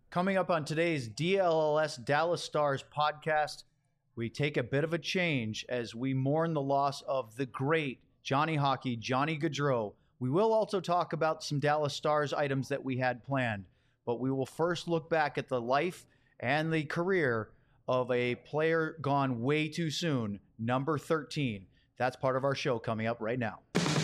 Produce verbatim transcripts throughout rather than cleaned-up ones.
Coming up on today's D L L S Dallas Stars podcast, we take a bit of a change as we mourn the loss of the great Johnny Hockey, Johnny Gaudreau. We will also talk about some Dallas Stars items that we had planned, but we will first look back at the life and the career of a player gone way too soon, number thirteen. That's part of our show coming up right now.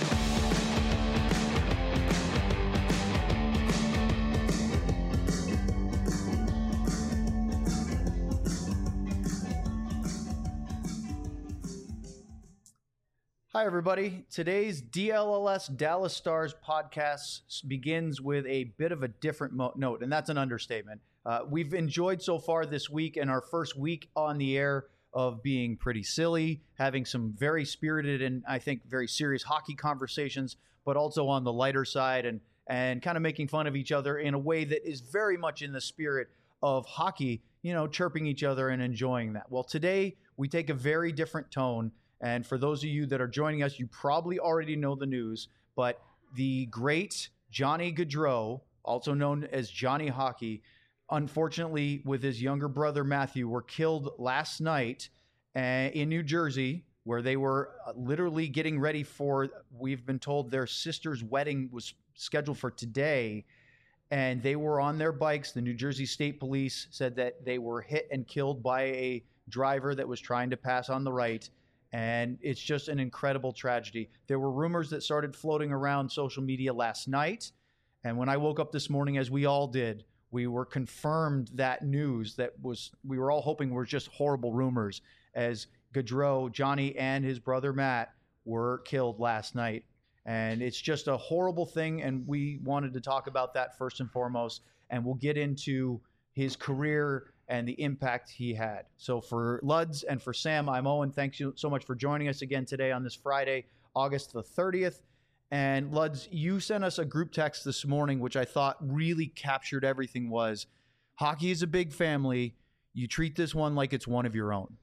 Hi, everybody. Today's D L L S Dallas Stars podcast begins with a bit of a different mo- note, and that's an understatement. Uh, we've enjoyed so far this week and our first week on the air of being pretty silly, having some very spirited and I think very serious hockey conversations, but also on the lighter side and, and kind of making fun of each other in a way that is very much in the spirit of hockey, you know, chirping each other and enjoying that. Well, today we take a very different tone. And for those of you that are joining us, you probably already know the news, but the great Johnny Gaudreau, also known as Johnny Hockey, unfortunately, with his younger brother Matthew, were killed last night uh, in New Jersey, where they were literally getting ready for, we've been told, their sister's wedding was scheduled for today. And they were on their bikes. The New Jersey State Police said that they were hit and killed by a driver that was trying to pass on the right. And it's just an incredible tragedy. There were rumors that started floating around social media last night. And when I woke up this morning, as we all did, we were confirmed that news that was, we were all hoping were just horrible rumors, as Gaudreau, Johnny, and his brother Matt were killed last night. And it's just a horrible thing. And we wanted to talk about that first and foremost. And we'll get into his career and the impact he had. So for Luds and for Sam, I'm Owen. Thanks you so much for joining us again today on this Friday, August the thirtieth. And Luds, you sent us a group text this morning, which I thought really captured everything. Was hockey is a big family. You treat this one like it's one of your own.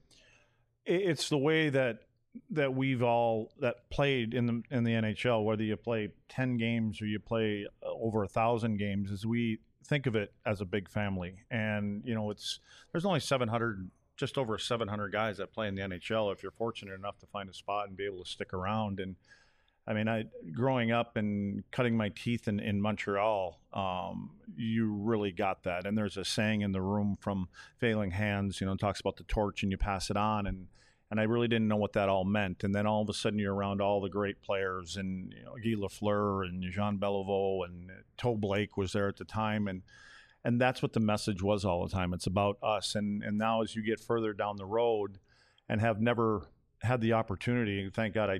It's the way that that we've all that played in the in the N H L, whether you play ten games or you play over a thousand games, is we think of it as a big family. And, you know, it's there's only seven hundred, just over seven hundred guys that play in the N H L if you're fortunate enough to find a spot and be able to stick around. And I mean, I growing up and cutting my teeth in, in Montreal, um, you really got that. And there's a saying in the room from Failing Hands, you know, talks about the torch and you pass it on. And And I really didn't know what that all meant. And then all of a sudden you're around all the great players, and you know, Guy Lafleur and Jean Beliveau and Toe Blake was there at the time. And and that's what the message was all the time. It's about us. And, and now as you get further down the road and have never had the opportunity, thank God I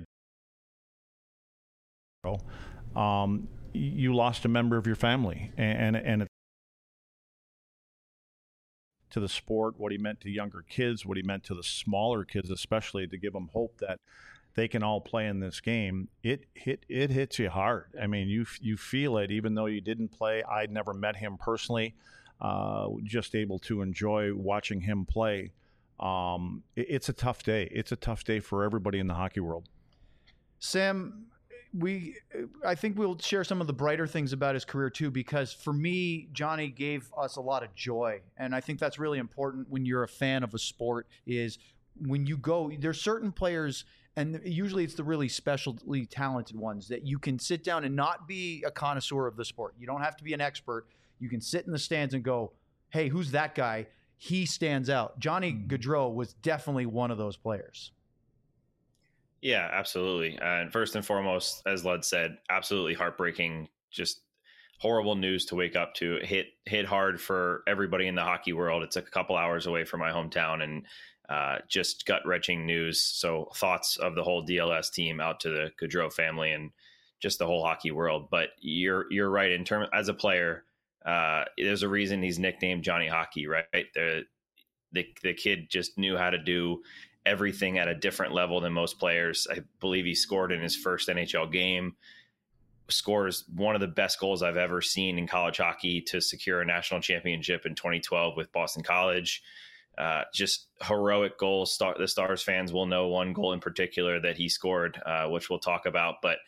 um, you lost a member of your family. And, and, and it's to the sport, what he meant to younger kids, what he meant to the smaller kids, especially to give them hope that they can all play in this game. It hit it hits you hard. I mean, you you feel it, even though you didn't play. I'd never met him personally, uh, just able to enjoy watching him play. Um, it, it's a tough day. It's a tough day for everybody in the hockey world. Sam, we I think we'll share some of the brighter things about his career too, because for me, Johnny gave us a lot of joy. And I think that's really important when you're a fan of a sport, is when you go, there's certain players, and usually it's the really specially talented ones, that you can sit down and not be a connoisseur of the sport. You don't have to be an expert. You can sit in the stands and go, hey, who's that guy? He stands out. Johnny Gaudreau was definitely one of those players. Yeah, absolutely. Uh, and first and foremost, as Lud said, absolutely heartbreaking, just horrible news to wake up to. It hit hit hard for everybody in the hockey world. It's a couple hours away from my hometown, and uh, just gut-wrenching news. So thoughts of the whole D L S team out to the Gaudreau family and just the whole hockey world. But you're you're right. In terms as a player, uh, there's a reason he's nicknamed Johnny Hockey, right? The the the kid just knew how to do everything at a different level than most players. I believe he scored in his first N H L game, scores one of the best goals I've ever seen in college hockey to secure a national championship in twenty twelve with Boston College. Uh, just heroic goals. Star, the Stars fans will know one goal in particular that he scored, uh, which we'll talk about. But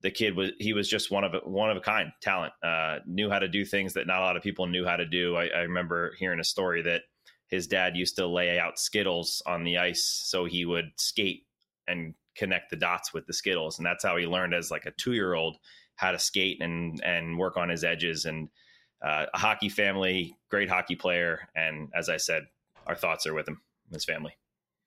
the kid was, he was just one of a, one of a kind talent, uh, knew how to do things that not a lot of people knew how to do. I, I remember hearing a story that his dad used to lay out Skittles on the ice so he would skate and connect the dots with the Skittles. And that's how he learned as like a two-year-old how to skate and, and work on his edges. And uh, a hockey family, great hockey player. And as I said, our thoughts are with him, his family.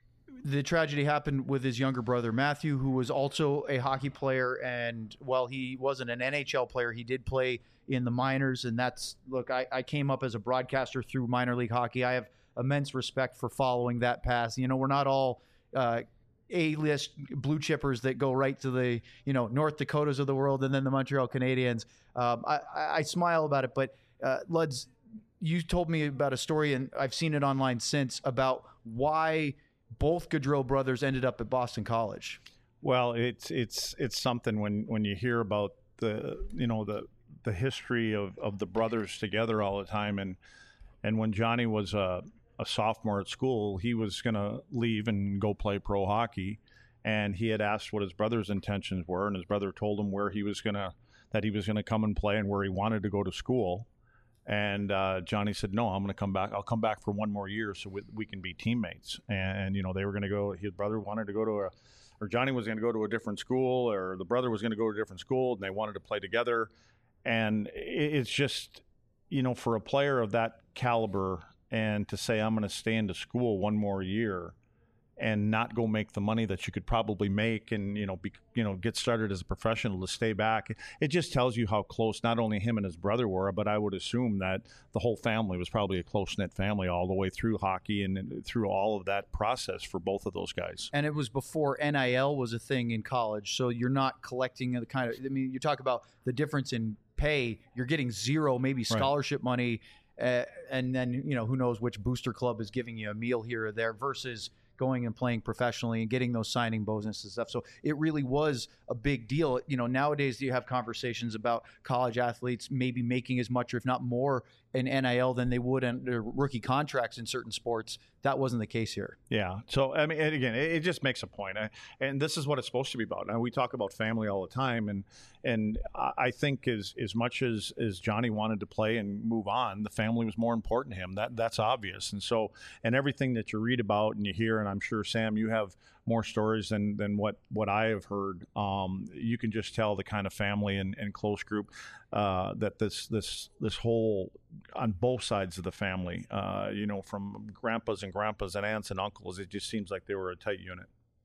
The tragedy happened with his younger brother, Matthew, who was also a hockey player. And while he wasn't an N H L player, he did play in the minors. And that's, look, I, I came up as a broadcaster through minor league hockey. I have immense respect for following that path. You know, we're not all uh, A-list blue chippers that go right to the, you know, North Dakotas of the world and then the Montreal Canadiens. Um, I, I smile about it, but uh, Luds, you told me about a story, and I've seen it online since, about why both Gaudreau brothers ended up at Boston College. Well, it's it's it's something when, when you hear about the you know the the history of, of the brothers together all the time, and and when Johnny was a, a sophomore at school, he was going to leave and go play pro hockey, and he had asked what his brother's intentions were, and his brother told him where he was going to that he was going to come and play and where he wanted to go to school. And uh, Johnny said, no, I'm going to come back. I'll come back for one more year so we, we can be teammates. And, you know, they were going to go, his brother wanted to go to a, or Johnny was going to go to a different school, or the brother was going to go to a different school, and they wanted to play together. And it's just, you know, for a player of that caliber, and to say, I'm going to stay into school one more year and not go make the money that you could probably make, and, you know, be, you know, get started as a professional, to stay back. It just tells you how close not only him and his brother were, but I would assume that the whole family was probably a close-knit family all the way through hockey and, and through all of that process for both of those guys. And it was before N I L was a thing in college, so you're not collecting the kind of, I mean, you talk about the difference in pay. You're getting zero, maybe scholarship right. money, uh, and then, you know, who knows which booster club is giving you a meal here or there, versus going and playing professionally and getting those signing bonuses and stuff. So it really was a big deal. You know, nowadays you have conversations about college athletes maybe making as much, or if not more, in N I L than they would in their rookie contracts in certain sports. That wasn't the case here. Yeah. So, I mean, and again, it, it just makes a point. I, and this is what it's supposed to be about. Now, we talk about family all the time. And and I think as as much as, as Johnny wanted to play and move on, the family was more important to him. That That's obvious. And so, and everything that you read about and you hear, and I'm sure, Sam, you have more stories than, than what, what I have heard. Um, you can just tell the kind of family and, and close group uh, that this this this whole, on both sides of the family, uh, you know, from grandpas and grandpas and aunts and uncles, it just seems like they were a tight unit.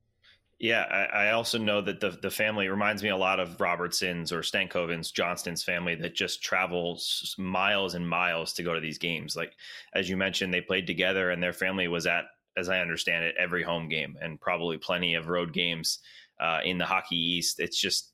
Yeah, I, I also know that the the family reminds me a lot of Robertson's or Stankoven's, Johnston's family, that just travels miles and miles to go to these games. Like, as you mentioned, they played together, and their family was at, as I understand it, every home game, and probably plenty of road games uh, in the Hockey East. It's just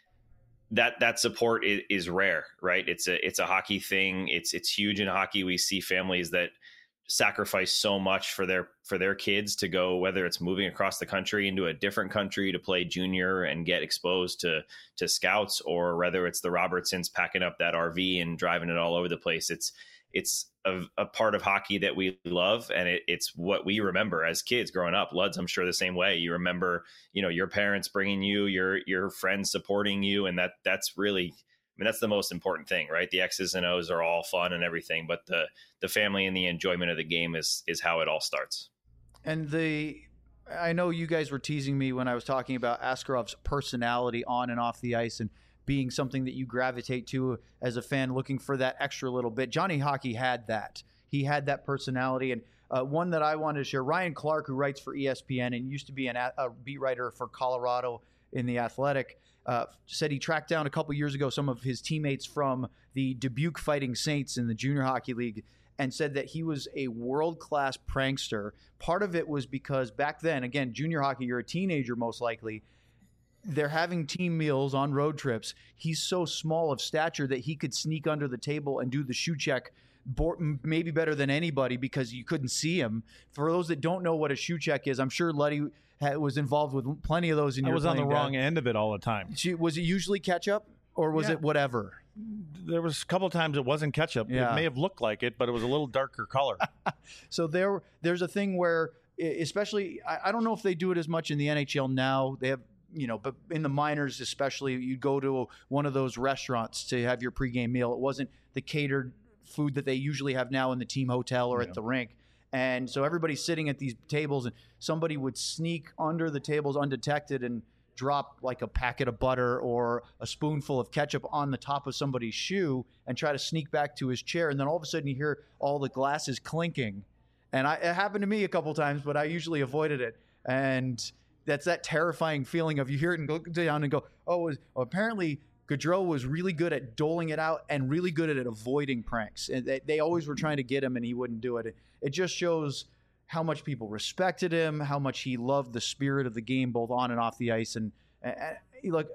that that support is, is rare, right? It's a it's a hockey thing. It's it's huge in hockey. We see families that sacrifice so much for their for their kids to go, whether it's moving across the country into a different country to play junior and get exposed to to scouts, or whether it's the Robertsons packing up that R V and driving it all over the place. It's it's a, a part of hockey that we love, and it, it's what we remember as kids growing up. Luds, I'm sure the same way. You remember, you know, your parents bringing you, your your friends supporting you, and that that's really, I mean, that's the most important thing, right? The X's and O's are all fun and everything, but the the family and the enjoyment of the game is is how it all starts. And the, I know you guys were teasing me when I was talking about Askarov's personality on and off the ice, and being something that you gravitate to as a fan, looking for that extra little bit. Johnny Hockey had that. He had that personality. And uh, one that I wanted to share, Ryan Clark, who writes for E S P N and used to be an, a beat writer for Colorado in The Athletic, uh, said he tracked down a couple years ago some of his teammates from the Dubuque Fighting Saints in the Junior Hockey League, and said that he was a world-class prankster. Part of it was because back then, again, junior hockey, you're a teenager most likely, they're having team meals on road trips. He's so small of stature that he could sneak under the table and do the shoe check maybe better than anybody because you couldn't see him. For those that don't know what a shoe check is, I'm sure Luddy was involved with plenty of those in your I was on the dad. wrong end of it all the time. Was it usually ketchup, or was Yeah. it whatever? There was a couple of times it wasn't ketchup. Yeah. It may have looked like it, but it was a little darker color. So there, there's a thing where, especially, I, I don't know if they do it as much in the N H L now. They have you know, but in the minors especially, you'd go to one of those restaurants to have your pregame meal. It wasn't the catered food that they usually have now in the team hotel or yeah. at the rink. And so everybody's sitting at these tables, and somebody would sneak under the tables undetected and drop like a packet of butter or a spoonful of ketchup on the top of somebody's shoe and try to sneak back to his chair. And then all of a sudden you hear all the glasses clinking. And I, it happened to me a couple times, but I usually avoided it. And that's that terrifying feeling of you hear it and go down and go, oh, was, oh apparently Gaudreau was really good at doling it out and really good at avoiding pranks. And they, they always were trying to get him and he wouldn't do it. It, it just shows how much people respected him, how much he loved the spirit of the game, both on and off the ice. And, and, and look,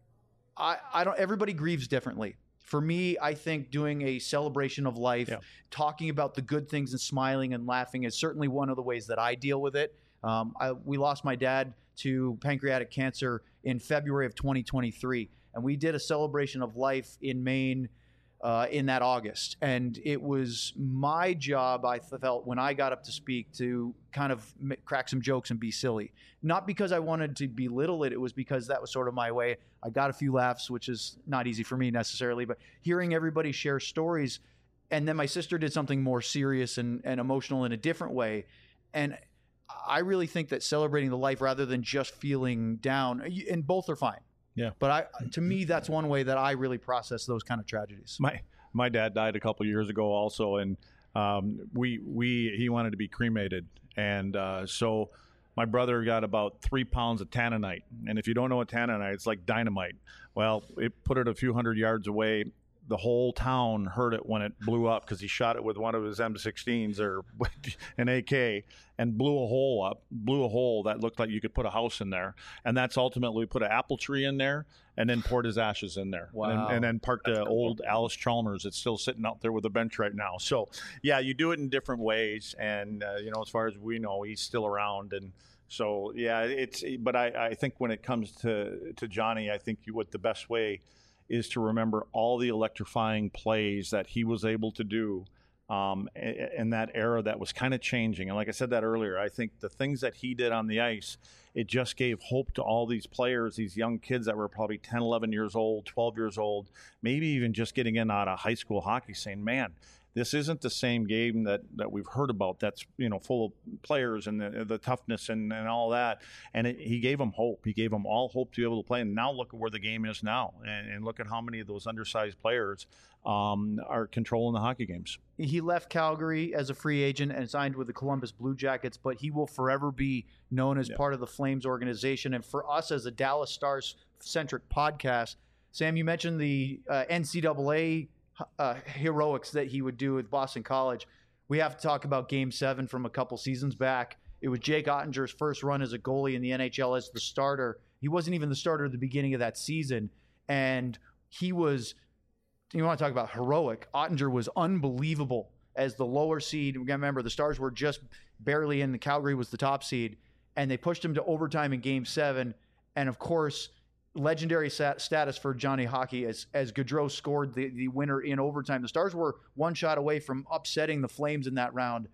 I, I don't, everybody grieves differently. For me, I think doing a celebration of life, yeah. talking about the good things and smiling and laughing is certainly one of the ways that I deal with it. Um, I, we lost my dad to pancreatic cancer in February of twenty twenty-three. And we did a celebration of life in Maine uh, in that August. And it was my job, I felt, when I got up to speak, to kind of m- crack some jokes and be silly. Not because I wanted to belittle it. It was because that was sort of my way. I got a few laughs, which is not easy for me necessarily. But hearing everybody share stories, and then my sister did something more serious and, and emotional in a different way. And I really think that celebrating the life rather than just feeling down, and both are fine. Yeah. But I, to me, that's one way that I really process those kind of tragedies. My my dad died a couple of years ago also, and um, we we he wanted to be cremated, and uh, so my brother got about three pounds of tanninite, and if you don't know what tanninite, it's like dynamite. Well, it put it a few hundred yards away. The whole town heard it when it blew up because he shot it with one of his M sixteens or an A K and blew a hole up, blew a hole that looked like you could put a house in there. And that's ultimately put an apple tree in there and then poured his ashes in there. Wow. And, and then parked the old Alice Chalmers that's still sitting out there with a bench right now. So, yeah, you do it in different ways. And, uh, you know, as far as we know, he's still around. And so, yeah, it's – but I, I think when it comes to, to Johnny, I think you, what the best way – is to remember all the electrifying plays that he was able to do um, in that era that was kind of changing. And like I said that earlier, I think the things that he did on the ice, it just gave hope to all these players, these young kids that were probably ten, eleven years old, twelve years old, maybe even just getting in out of high school hockey saying, man, this isn't the same game that, that we've heard about that's, you know, full of players and the, the toughness and, and all that. And it, he gave them hope. He gave them all hope to be able to play. And now look at where the game is now. And, and look at how many of those undersized players um, are controlling the hockey games. He left Calgary as a free agent and signed with the Columbus Blue Jackets, but he will forever be known as yeah. part of the Flames organization. And for us as a Dallas Stars-centric podcast, Sam, you mentioned the uh, N C double A Uh, heroics that he would do with Boston College. We have to talk about Game seven from a couple seasons back. It was Jake Ottinger's first run as a goalie in the N H L as the starter. He wasn't even the starter at the beginning of that season. And he was, you want to talk about heroic, Ottinger was unbelievable as the lower seed. Remember, the Stars were just barely in. The Calgary was the top seed. And they pushed him to overtime in Game seven. And, of course, legendary sat- status for Johnny Hockey as as Gaudreau scored the, the winner in overtime. The Stars were one shot away from upsetting the Flames in that round.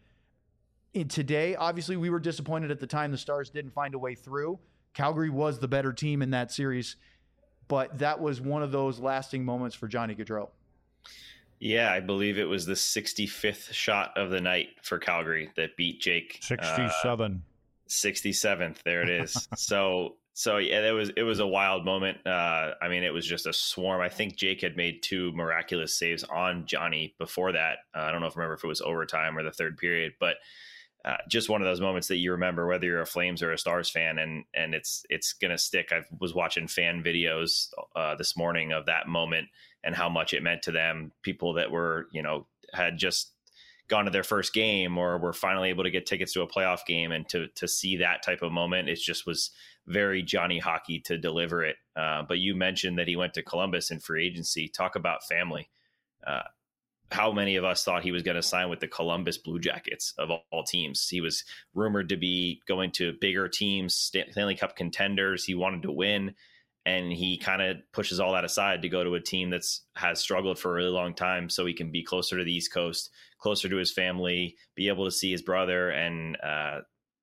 In today, obviously, we were disappointed at the time the Stars didn't find a way through. Calgary was the better team in that series, but that was one of those lasting moments for Johnny Gaudreau. Yeah, I believe it was the sixty-fifth shot of the night for Calgary that beat Jake. sixty-seven. Uh, sixty-seventh, there it is. so... So yeah, it was it was a wild moment. Uh, I mean, it was just a swarm. I think Jake had made two miraculous saves on Johnny before that. Uh, I don't know if I remember if it was overtime or the third period, but uh, just one of those moments that you remember, whether you're a Flames or a Stars fan, and and it's it's gonna stick. I was watching fan videos uh, this morning of that moment and how much it meant to them. People that were, you know, had just gone to their first game or were finally able to get tickets to a playoff game, and to to see that type of moment, it just was very Johnny Hockey to deliver it. Uh, but you mentioned that he went to Columbus in free agency. Talk about family. Uh, how many of us thought he was going to sign with the Columbus Blue Jackets of all, all teams? He was rumored to be going to bigger teams, Stanley Cup contenders. He wanted to win, and he kind of pushes all that aside to go to a team that's has struggled for a really long time so he can be closer to the East Coast, closer to his family, be able to see his brother, and uh,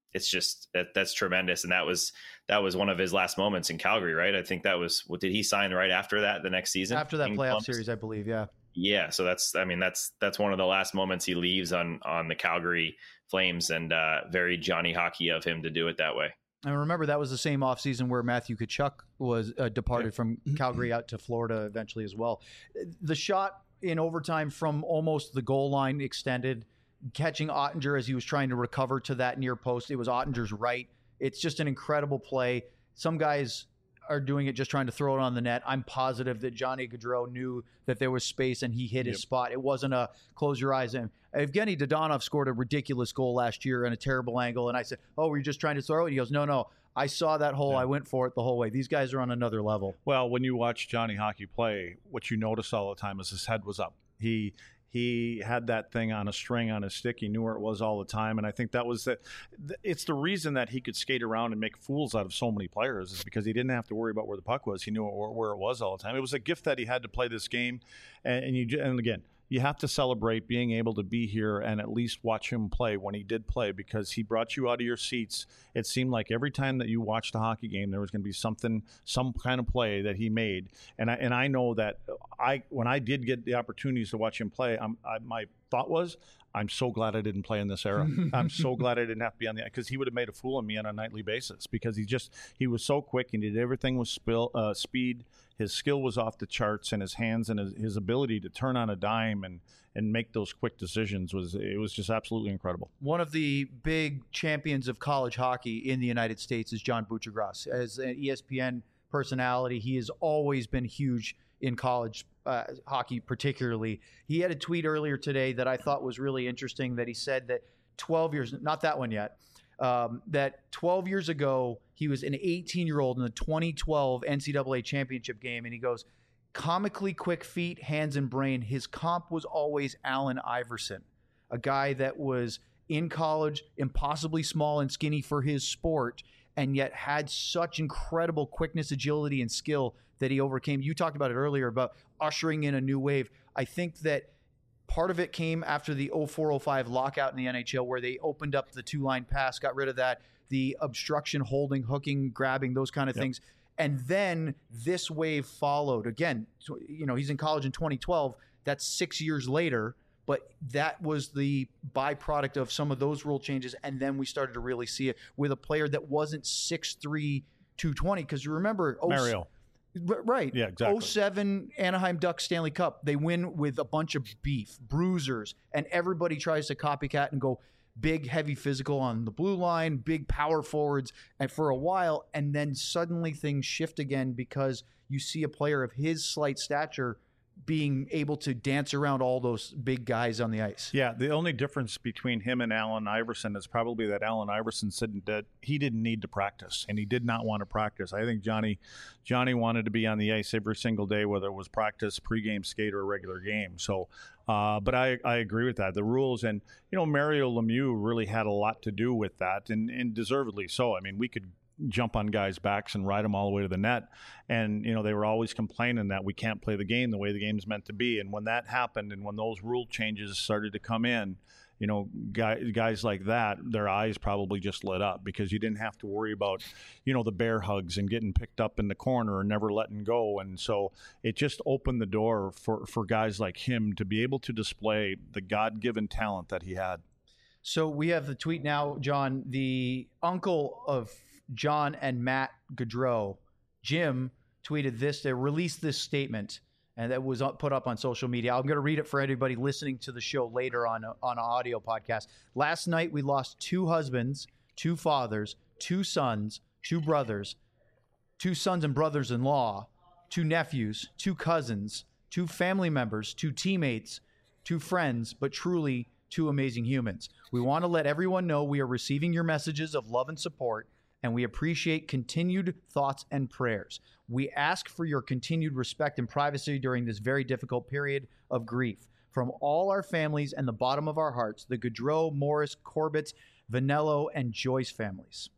it's just that that's tremendous. And that was that was one of his last moments in Calgary, right? I think that was what did he sign right after that the next season after that playoff Columbus? series, I believe. Yeah. Yeah. So that's I mean that's that's one of the last moments he leaves on on the Calgary Flames, and uh, very Johnny Hockey of him to do it that way. And remember, that was the same offseason where Matthew Tkachuk was uh, departed from Calgary out to Florida eventually as well. The shot in overtime from almost the goal line extended, catching Ottinger as he was trying to recover to that near post. It was Ottinger's right. It's just an incredible play. Some guys are doing it just trying to throw it on the net. I'm positive that Johnny Gaudreau knew that there was space and he hit his yep. spot. It wasn't a close your eyes. And Evgeny Dodonov scored a ridiculous goal last year in a terrible angle. And I said, oh, were you just trying to throw it? He goes, no, no. I saw that hole. Yeah. I went for it the whole way. These guys are on another level. Well, when you watch Johnny Hockey play, what you notice all the time is his head was up. He He had that thing on a string on his stick. He knew where it was all the time. And I think that was the, it's the reason that he could skate around and make fools out of so many players is because he didn't have to worry about where the puck was. He knew where it was all the time. It was a gift that he had to play this game. And, and you, and again, you have to celebrate being able to be here and at least watch him play when he did play, because he brought you out of your seats. It seemed like every time that you watched a hockey game, there was going to be something, some kind of play that he made. And I, and I know that I, when I did get the opportunities to watch him play, I'm, I, my thought was, I'm so glad I didn't play in this era. I'm so glad I didn't have to be on the, because he would have made a fool of me on a nightly basis, because he just, he was so quick and he did everything with spill, uh, speed. His skill was off the charts, and his hands and his, his ability to turn on a dime and, and make those quick decisions was, it was just absolutely incredible. One of the big champions of college hockey in the United States is John Buccigross. As an E S P N personality, he has always been huge in college uh, hockey particularly. He had a tweet earlier today that I thought was really interesting, that he said that twelve years, not that one yet, um, that twelve years ago, he was an eighteen-year-old in the twenty twelve N C double A championship game, and he goes, comically quick feet, hands, and brain. His comp was always Allen Iverson, a guy that was in college, impossibly small and skinny for his sport, and yet had such incredible quickness, agility, and skill that he overcame. You talked about it earlier about ushering in a new wave. I think that part of it came after the oh four oh five lockout in the N H L, where they opened up the two-line pass, got rid of that, the obstruction, holding, hooking, grabbing, those kind of yep. things. And then this wave followed. Again, you know, he's in college in twenty twelve. That's six years later. But that was the byproduct of some of those rule changes. And then we started to really see it with a player that wasn't six three, two twenty. Because you remember... Mario. Right. Yeah, exactly. oh seven Anaheim Ducks Stanley Cup. They win with a bunch of beef, bruisers, and everybody tries to copycat and go big, heavy physical on the blue line, big power forwards, and for a while, and then suddenly things shift again because you see a player of his slight stature being able to dance around all those big guys on the ice. Yeah, the only difference between him and Allen Iverson is probably that Allen Iverson said that he didn't need to practice, and he did not want to practice. I think Johnny Johnny wanted to be on the ice every single day, whether it was practice, pregame skate, or a regular game. So, uh, but I, I agree with that. The rules, and, you know, Mario Lemieux really had a lot to do with that, and, and deservedly so. I mean, we could jump on guys' backs and ride them all the way to the net. And, you know, they were always complaining that we can't play the game the way the game's meant to be. And when that happened and when those rule changes started to come in, you know, guys, guys like that, their eyes probably just lit up, because you didn't have to worry about, you know, the bear hugs and getting picked up in the corner and never letting go. And so it just opened the door for, for guys like him to be able to display the God-given talent that he had. So we have the tweet now, John. The uncle of John and Matt Gaudreau, Jim, tweeted this. They released this statement, and that was put up on social media. I'm going to read it for anybody listening to the show later on, on an audio podcast. Last night, we lost two husbands, two fathers, two sons, two brothers, two sons and brothers-in-law, two nephews, two cousins, two family members, two teammates, two friends, but truly two amazing humans. We want to let everyone know we are receiving your messages of love and support, and we appreciate continued thoughts and prayers. We ask for your continued respect and privacy during this very difficult period of grief. From all our families and the bottom of our hearts, the Gaudreau, Morris, Corbett, Vanello, and Joyce families.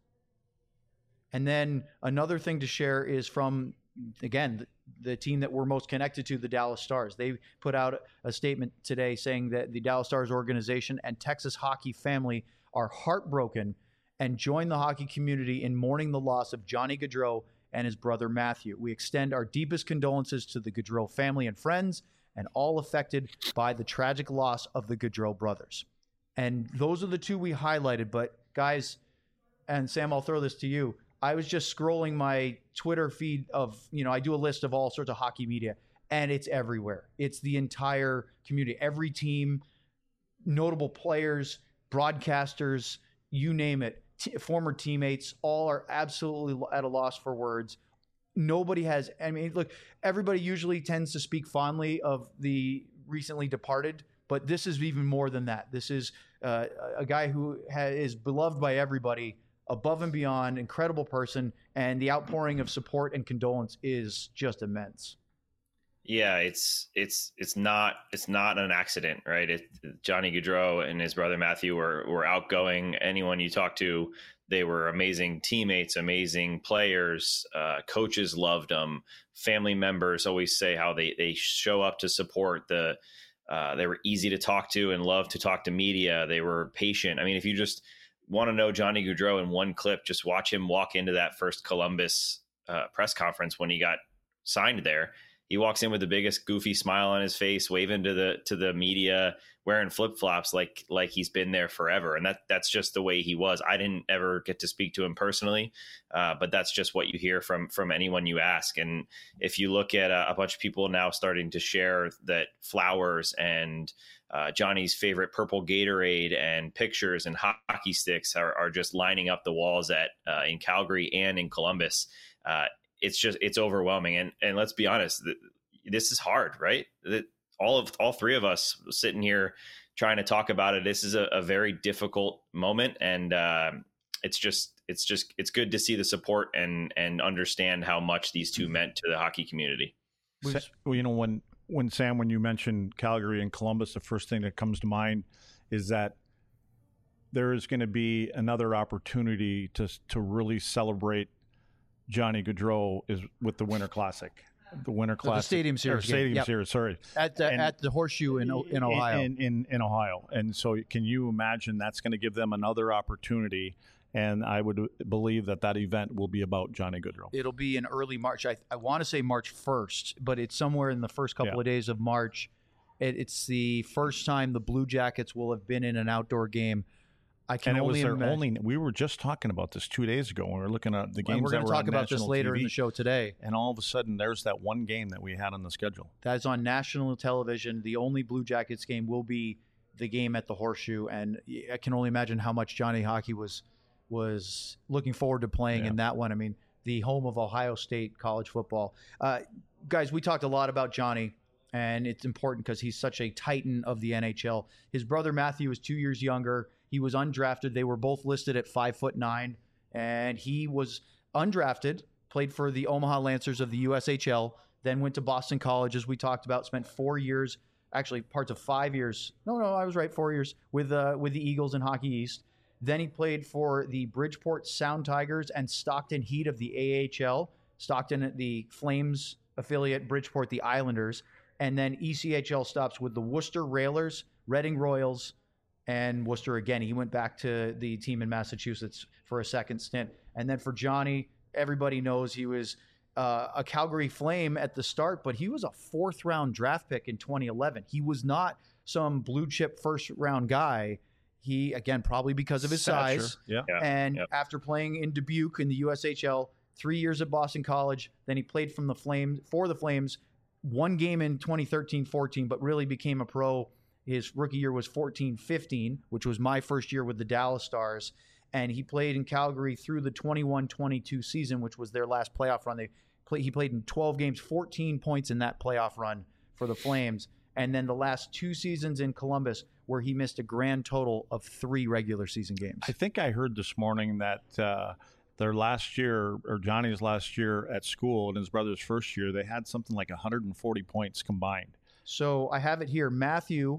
And then another thing to share is from, again, the, the team that we're most connected to, the Dallas Stars. They put out a statement today saying that the Dallas Stars organization and Texas hockey family are heartbroken and join the hockey community in mourning the loss of Johnny Gaudreau and his brother Matthew. We extend our deepest condolences to the Gaudreau family and friends and all affected by the tragic loss of the Gaudreau brothers. And those are the two we highlighted. But guys, and Sam, I'll throw this to you. I was just scrolling my Twitter feed of, you know, I do a list of all sorts of hockey media, and it's everywhere. It's the entire community, every team, notable players, broadcasters, you name it, t- former teammates, all are absolutely at a loss for words. Nobody has, I mean, look, everybody usually tends to speak fondly of the recently departed, but this is even more than that. This is uh, a guy who ha- is beloved by everybody, above and beyond, incredible person, and the outpouring of support and condolence is just immense. Yeah, it's it's it's not it's not an accident, right? It, Johnny Gaudreau and his brother Matthew were were outgoing. Anyone you talk to, they were amazing teammates, amazing players. Uh, coaches loved them. Family members always say how they they show up to support. The uh, they were easy to talk to and loved to talk to media. They were patient. I mean, if you just want to know Johnny Gaudreau in one clip, just watch him walk into that first Columbus uh, press conference when he got signed there. He walks in with the biggest goofy smile on his face, waving to the to the media, wearing flip flops like like he's been there forever, and that that's just the way he was. I didn't ever get to speak to him personally, uh, but that's just what you hear from from anyone you ask. And if you look at a, a bunch of people now starting to share that flowers and uh, Johnny's favorite purple Gatorade and pictures and hockey sticks are, are just lining up the walls at uh, in Calgary and in Columbus. Uh, It's just, it's overwhelming. And, and let's be honest, this is hard, right? That all of, all three of us sitting here trying to talk about it. This is a, a very difficult moment. And uh, it's just, it's just, it's good to see the support and, and understand how much these two meant to the hockey community. Well, you know, when, when Sam, when you mentioned Calgary and Columbus, the first thing that comes to mind is that there is going to be another opportunity to, to really celebrate Johnny Gaudreau is with the Winter Classic, the Winter Classic, the Stadium Series, Stadium yep. Series. Sorry, at the, and, at the Horseshoe in in Ohio, in, in in Ohio. And so, can you imagine that's going to give them another opportunity? And I would believe that that event will be about Johnny Gaudreau. It'll be in early March. I I want to say March first, but it's somewhere in the first couple yeah. of days of March. It, it's the first time the Blue Jackets will have been in an outdoor game. I can and it only was their imagine. only. We were just talking about this two days ago when we were looking at the games. And we're going that to were talk on about this later T V, in the show today. And all of a sudden, there's that one game that we had on the schedule. That is on national television. The only Blue Jackets game will be the game at the Horseshoe, and I can only imagine how much Johnny Hockey was was looking forward to playing yeah. in that one. I mean, the home of Ohio State college football. Uh, guys, we talked a lot about Johnny. And it's important because he's such a titan of the N H L. His brother Matthew is two years younger. He was undrafted. They were both listed at five foot nine, and he was undrafted. Played for the Omaha Lancers of the U S H L. Then went to Boston College, as we talked about. Spent four years, actually parts of five years. No, no, I was right. Four years with uh, with the Eagles in Hockey East. Then he played for the Bridgeport Sound Tigers and Stockton Heat of the A H L. Stockton, the Flames affiliate, Bridgeport, the Islanders. And then E C H L stops with the Worcester Railers, Reading Royals, and Worcester again. He went back to the team in Massachusetts for a second stint. And then for Johnny, everybody knows he was uh, a Calgary Flame at the start, but he was a fourth round draft pick in twenty eleven. He was not some blue chip first round guy. He, again, probably because of his Stature. size. Yeah. Yeah. And Yep. after playing in Dubuque in the U S H L, three years at Boston College, then he played from the Flames for the Flames. One game in twenty thirteen fourteen, but really became a pro. His rookie year was fourteen fifteen, which was my first year with the Dallas Stars. And he played in Calgary through the twenty-one twenty-two season, which was their last playoff run. They play, He played in twelve games, fourteen points in that playoff run for the Flames. And then the last two seasons in Columbus, where he missed a grand total of three regular season games. I think I heard this morning that uh, their last year, or Johnny's last year at school and his brother's first year, they had something like one hundred forty points combined. So I have it here. Matthew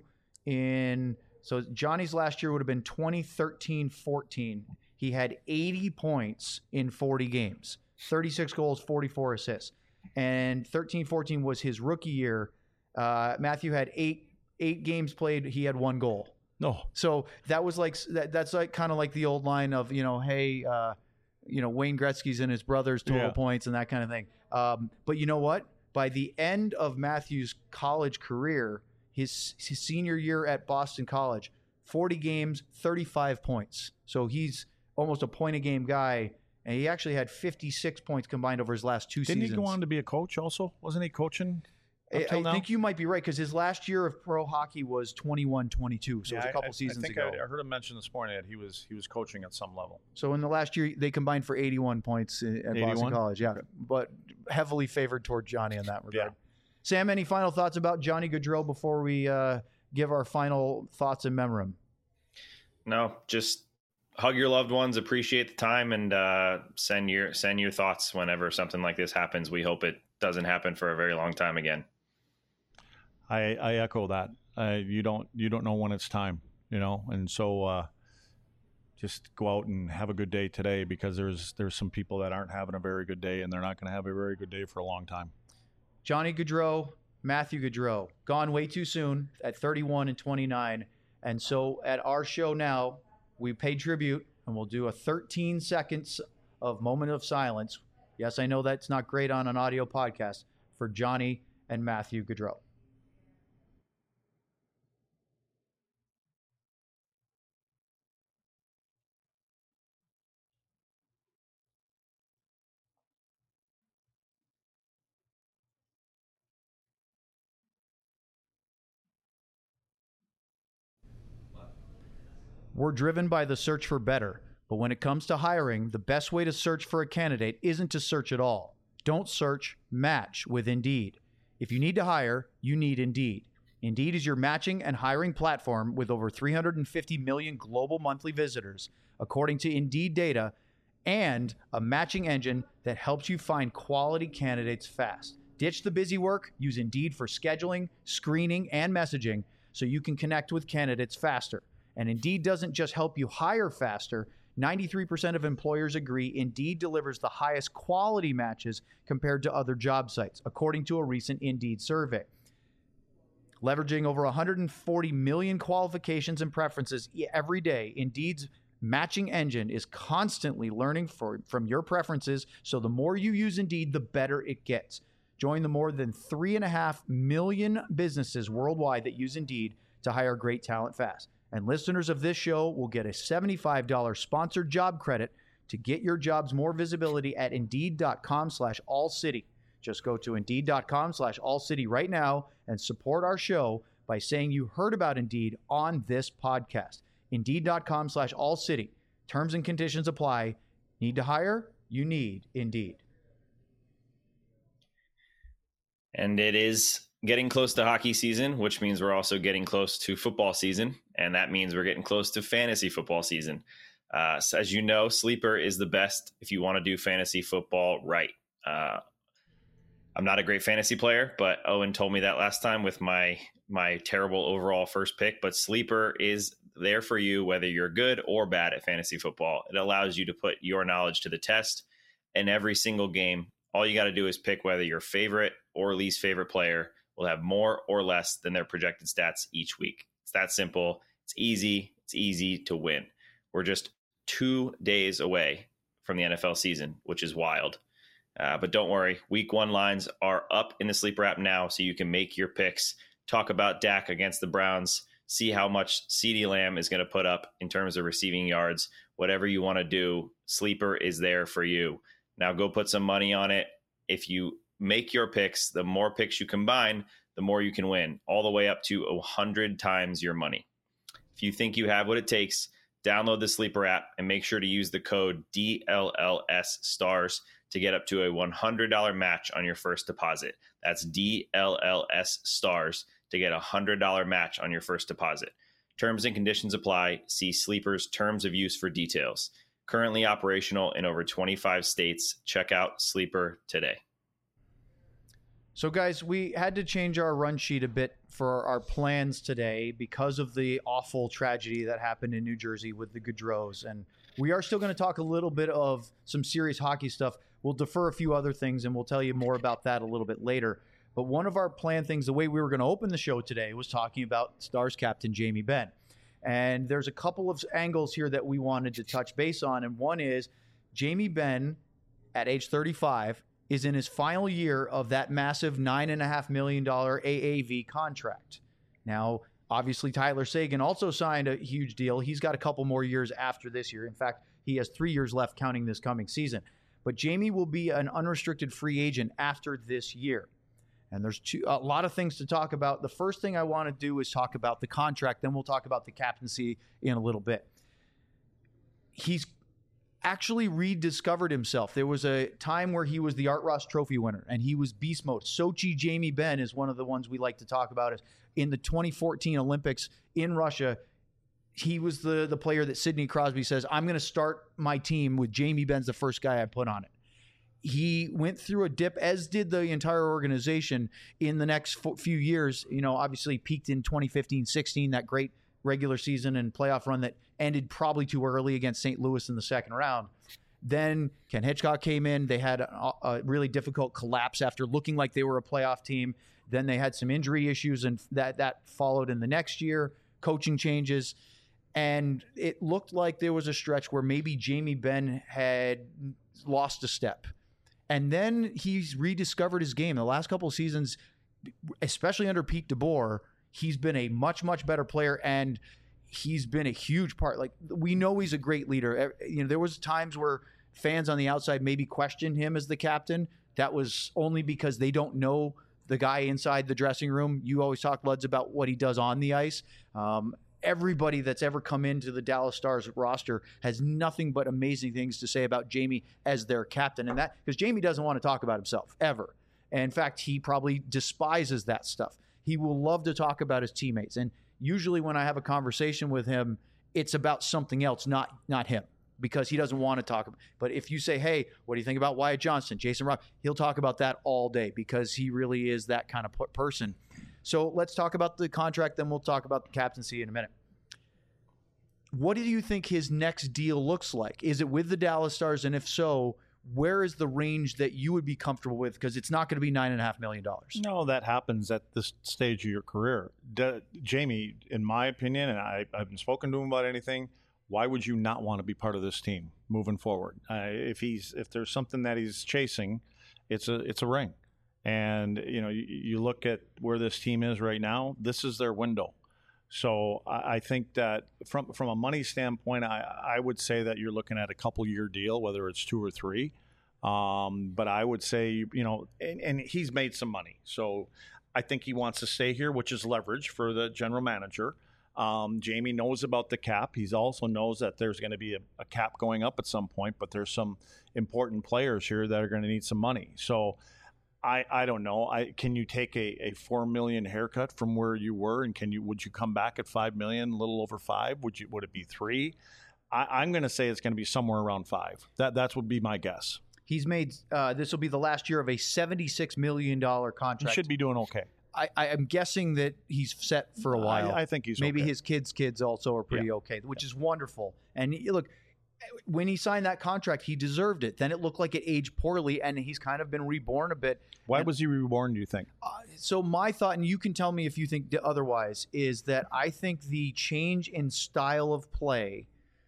in, so Johnny's last year would have been twenty thirteen fourteen. He had eighty points in forty games, thirty-six goals, forty-four assists. And thirteen fourteen was his rookie year. Uh, Matthew had eight eight games played. He had one goal. No. So that was like that, that's like kind of like the old line of, you know, hey, uh, you know, Wayne Gretzky's and his brother's total Yeah. points and that kind of thing. Um, but you know what? By the end of Matthews' college career, his, his senior year at Boston College, forty games, thirty-five points. So he's almost a point a game guy, and he actually had fifty-six points combined over his last two Didn't seasons. he go on to be a coach also? Wasn't he coaching up I, till I now? think you might be right because his last year of pro hockey was twenty-one twenty-two, so Yeah, it was a couple I, I, seasons I think ago. I, I heard him mention this morning that he was he was coaching at some level. So in the last year, they combined for eighty-one points at Boston eighty-one? College. Yeah, but heavily favored toward Johnny in that regard. Yeah. Sam, any final thoughts about Johnny Gaudreau before we uh, give our final thoughts in memoriam? No, just hug your loved ones, appreciate the time, and uh, send your send your thoughts whenever something like this happens. We hope it doesn't happen for a very long time again. I, I echo that. Uh, you don't you don't know when it's time, you know, and so uh, just go out and have a good day today because there's there's some people that aren't having a very good day and they're not going to have a very good day for a long time. Johnny Gaudreau, Matthew Gaudreau, gone way too soon at thirty-one and twenty-nine. And so at our show now, we pay tribute and we'll do a thirteen seconds of moment of silence. Yes, I know that's not great on an audio podcast for Johnny and Matthew Gaudreau. We're driven by the search for better, but when it comes to hiring, the best way to search for a candidate isn't to search at all. Don't search, match with Indeed. If you need to hire, you need Indeed. Indeed is your matching and hiring platform with over three hundred fifty million global monthly visitors, according to Indeed data, and a matching engine that helps you find quality candidates fast. Ditch the busy work, use Indeed for scheduling, screening, and messaging so you can connect with candidates faster. And Indeed doesn't just help you hire faster. ninety-three percent of employers agree Indeed delivers the highest quality matches compared to other job sites, according to a recent Indeed survey. Leveraging over one hundred forty million qualifications and preferences every day, Indeed's matching engine is constantly learning for, from your preferences, so the more you use Indeed, the better it gets. Join the more than three and a half million businesses worldwide that use Indeed to hire great talent fast. And listeners of this show will get a seventy-five dollars sponsored job credit to get your jobs more visibility at Indeed.com slash All City. Just go to Indeed.com slash All City right now and support our show by saying you heard about Indeed on this podcast. Indeed.com slash All City. Terms and conditions apply. Need to hire? You need Indeed. And it is getting close to hockey season, which means we're also getting close to football season. And that means we're getting close to fantasy football season. Uh, so as you know, Sleeper is the best if you want to do fantasy football right. Uh, I'm not a great fantasy player, but Owen told me that last time with my my terrible overall first pick. But Sleeper is there for you, whether you're good or bad at fantasy football. It allows you to put your knowledge to the test in every single game. All you got to do is pick whether your favorite or least favorite player will have more or less than their projected stats each week. It's that simple. It's easy. It's easy to win. We're just two days away from the N F L season, which is wild. Uh, but don't worry, week one lines are up in the Sleeper app now, so you can make your picks. Talk about Dak against the Browns. See how much CeeDee Lamb is going to put up in terms of receiving yards. Whatever you want to do, Sleeper is there for you. Now go put some money on it. If you make your picks, the more picks you combine, the more you can win, all the way up to one hundred times your money. If you think you have what it takes, download the Sleeper app and make sure to use the code D L L S STARS to get up to a one hundred dollars match on your first deposit. That's D L L S STARS to get a one hundred dollars match on your first deposit. Terms and conditions apply. See Sleeper's terms of use for details. Currently operational in over twenty-five states. Check out Sleeper today. So, guys, we had to change our run sheet a bit for our plans today because of the awful tragedy that happened in New Jersey with the Gaudreaus. And we are still going to talk a little bit of some serious hockey stuff. We'll defer a few other things, and we'll tell you more about that a little bit later. But one of our planned things, the way we were going to open the show today, was talking about Stars captain Jamie Benn. And there's a couple of angles here that we wanted to touch base on. And one is Jamie Benn, at age thirty-five, is in his final year of that massive nine point five million dollars A A V contract. Now, obviously, Tyler Seguin also signed a huge deal. He's got a couple more years after this year. In fact, he has three years left counting this coming season. But Jamie will be an unrestricted free agent after this year. And there's two, a lot of things to talk about. The first thing I want to do is talk about the contract. Then we'll talk about the captaincy in a little bit. He's actually rediscovered himself. There was a time where he was the Art Ross Trophy winner, and he was beast mode. Sochi Jamie Benn is one of the ones we like to talk about. Is in the twenty fourteen Olympics in Russia, he was the, the player that Sidney Crosby says, I'm going to start my team with Jamie Benn's the first guy I put on it. He went through a dip, as did the entire organization in the next few years. You know, obviously peaked in twenty fifteen sixteen, that great regular season and playoff run that ended probably too early against Saint Louis in the second round. Then Ken Hitchcock came in. They had a, a really difficult collapse after looking like they were a playoff team. Then they had some injury issues, and that, that followed in the next year, coaching changes. And it looked like there was a stretch where maybe Jamie Benn had lost a step. And then he's rediscovered his game. The last couple of seasons, especially under Pete DeBoer, he's been a much, much better player, and he's been a huge part. Like, we know he's a great leader. You know, there was times where fans on the outside maybe questioned him as the captain. That was only because they don't know the guy inside the dressing room. You always talk, Luds, about what he does on the ice. Um, Everybody that's ever come into the Dallas Stars roster has nothing but amazing things to say about Jamie as their captain. And that, because Jamie doesn't want to talk about himself ever. And in fact, he probably despises that stuff. He will love to talk about his teammates. And usually when I have a conversation with him, it's about something else, not, not him, because he doesn't want to talk about. But if you say, hey, what do you think about Wyatt Johnston, Jason Rock, he'll talk about that all day because he really is that kind of person. So let's talk about the contract, then we'll talk about the captaincy in a minute. What do you think his next deal looks like? Is it with the Dallas Stars? And if so, where is the range that you would be comfortable with? Because it's not going to be nine point five million dollars. No, that happens at this stage of your career. De- Jamie, in my opinion, and I, I haven't spoken to him about anything, why would you not want to be part of this team moving forward? Uh, if he's if there's something that he's chasing, it's a it's a ring. And, you know, you, you look at where this team is right now, this is their window. So I, I think that from from a money standpoint, I, I would say that you're looking at a couple year deal, whether it's two or three. Um, but I would say, you know, and, and he's made some money. So I think he wants to stay here, which is leverage for the general manager. Um, Jamie knows about the cap. He also knows that there's going to be a, a cap going up at some point, but there's some important players here that are going to need some money. So I, I don't know. I can you take a, a four million haircut from where you were, and can you would you come back at five million, a little over five? Would you would it be three? I, I'm going to say it's going to be somewhere around five. That that would be my guess. He's made uh, this will be the last year of a seventy-six million dollars contract. He should be doing okay. I, I am guessing that he's set for a while. I, I think he's maybe okay. his kids' kids also are pretty yeah. okay, which is wonderful. And look, when he signed that contract, he deserved it. Then it looked like it aged poorly, and he's kind of been reborn a bit. Why and, was he reborn, do you think? Uh, so my thought, and you can tell me if you think otherwise, is that I think the change in style of play,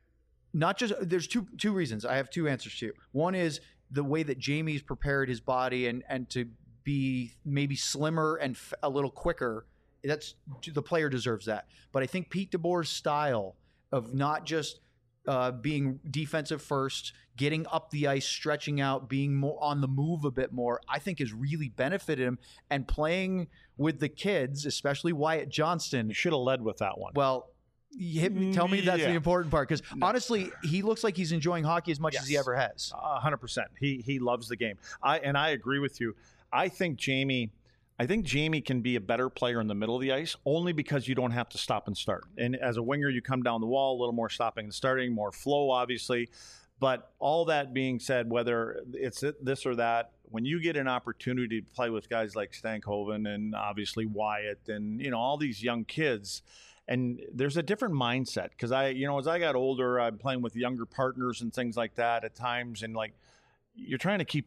not just, there's two two reasons. I have two answers to you. One is the way that Jamie's prepared his body and, and to be maybe slimmer and f- a little quicker. That's the player deserves that. But I think Pete DeBoer's style of not just Uh, being defensive first, getting up the ice, stretching out, being more on the move a bit more, I think has really benefited him. And playing with the kids, especially Wyatt Johnston. You should have led with that one. Well, you hit me, tell me that's yeah. the important part, because no. honestly, he looks like he's enjoying hockey as much yes. as he ever has. A hundred percent. He he loves the game. I and I agree with you. I think Jamie. I think Jamie can be a better player in the middle of the ice only because you don't have to stop and start. And as a winger, you come down the wall, a little more stopping and starting, more flow, obviously. But all that being said, whether it's this or that, when you get an opportunity to play with guys like Stankhoven and obviously Wyatt and, you know, all these young kids, and there's a different mindset. Because I, you know, as I got older, I'm playing with younger partners and things like that at times. And like, you're trying to keep up.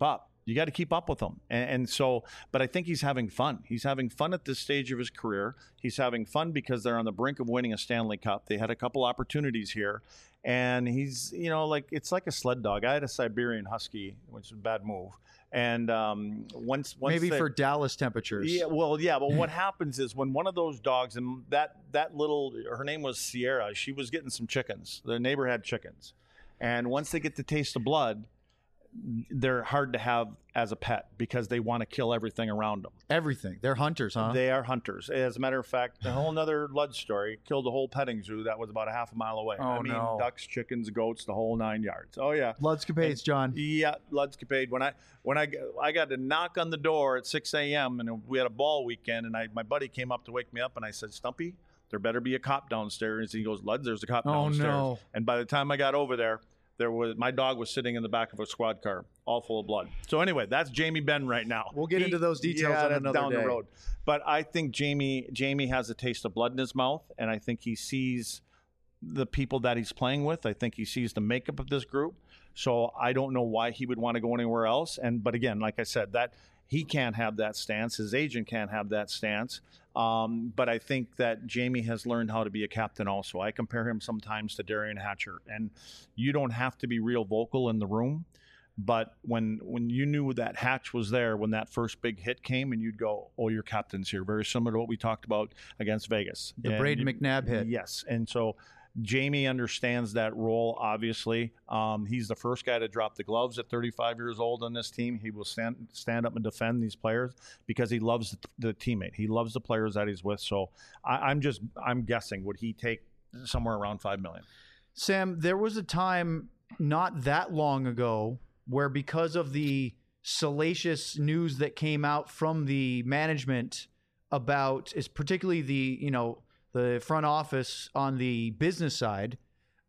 You got to keep up with him. And, and so, but I think he's having fun. He's having fun at this stage of his career. He's having fun because they're on the brink of winning a Stanley Cup. They had a couple opportunities here. And he's, you know, like, it's like a sled dog. I had a Siberian Husky, which is a bad move. And um, once, once maybe they, for Dallas temperatures. Yeah, well, yeah. But what happens is when one of those dogs, and that, that little, her name was Sierra, she was getting some chickens. The neighbor had chickens. And once they get to taste the blood, they're hard to have as a pet because they want to kill everything around them. Everything. They're hunters, huh? They are hunters. As a matter of fact, a whole nother Lud story killed a whole petting zoo that was about a half a mile away. Oh, I mean, no. ducks, chickens, goats, the whole nine yards. Oh, yeah. Ludscapades, John. Yeah, Ludscapade. When I when I I got to knock on the door at six a.m. and we had a ball weekend, and I my buddy came up to wake me up, and I said, Stumpy, there better be a cop downstairs. And he goes, Lud, there's a cop Oh, downstairs. no. And by the time I got over there, there was my dog was sitting in the back of a squad car, all full of blood. So anyway, that's Jamie Benn right now. We'll get He- into those details yeah, on that's another down day. the road. But I think Jamie Jamie has a taste of blood in his mouth, and I think he sees the people that he's playing with. I think he sees the makeup of this group. So I don't know why he would want to go anywhere else. And but again, like I said, that he can't have that stance. His agent can't have that stance. Um, but I think that Jamie has learned how to be a captain also. I compare him sometimes to Darian Hatcher. And you don't have to be real vocal in the room. But when when you knew that Hatch was there, when that first big hit came, and you'd go, oh, your captain's here. Very similar to what we talked about against Vegas. The And Braden you- McNabb hit. Yes. And so Jamie understands that role, obviously. Um, he's the first guy to drop the gloves at thirty-five years old on this team. He will stand stand up and defend these players because he loves the, the teammate. He loves the players that he's with. So I, I'm just, I'm guessing, would he take somewhere around five million dollars? Sam, there was a time not that long ago where because of the salacious news that came out from the management about, is particularly the, you know, the front office on the business side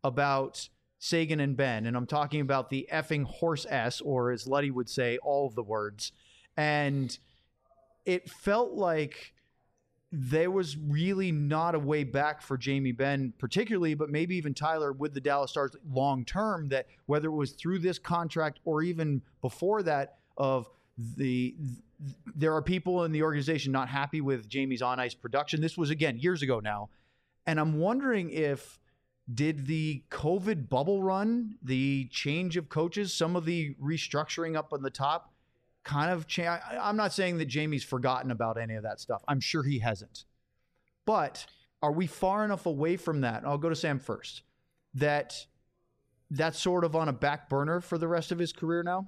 about Seguin and Benn, and I'm talking about the effing horse S, or as Luddy would say, all of the words. And it felt like there was really not a way back for Jamie Benn particularly, but maybe even Tyler with the Dallas Stars long term, that whether it was through this contract or even before that, of the there are people in the organization not happy with Jamie's on ice production. This was, again, years ago now. And I'm wondering if did the COVID bubble run, the change of coaches, some of the restructuring up on the top kind of change. I'm not saying that Jamie's forgotten about any of that stuff. I'm sure he hasn't. But are we far enough away from that? I'll go to Sam first. That that's sort of on a back burner for the rest of his career now?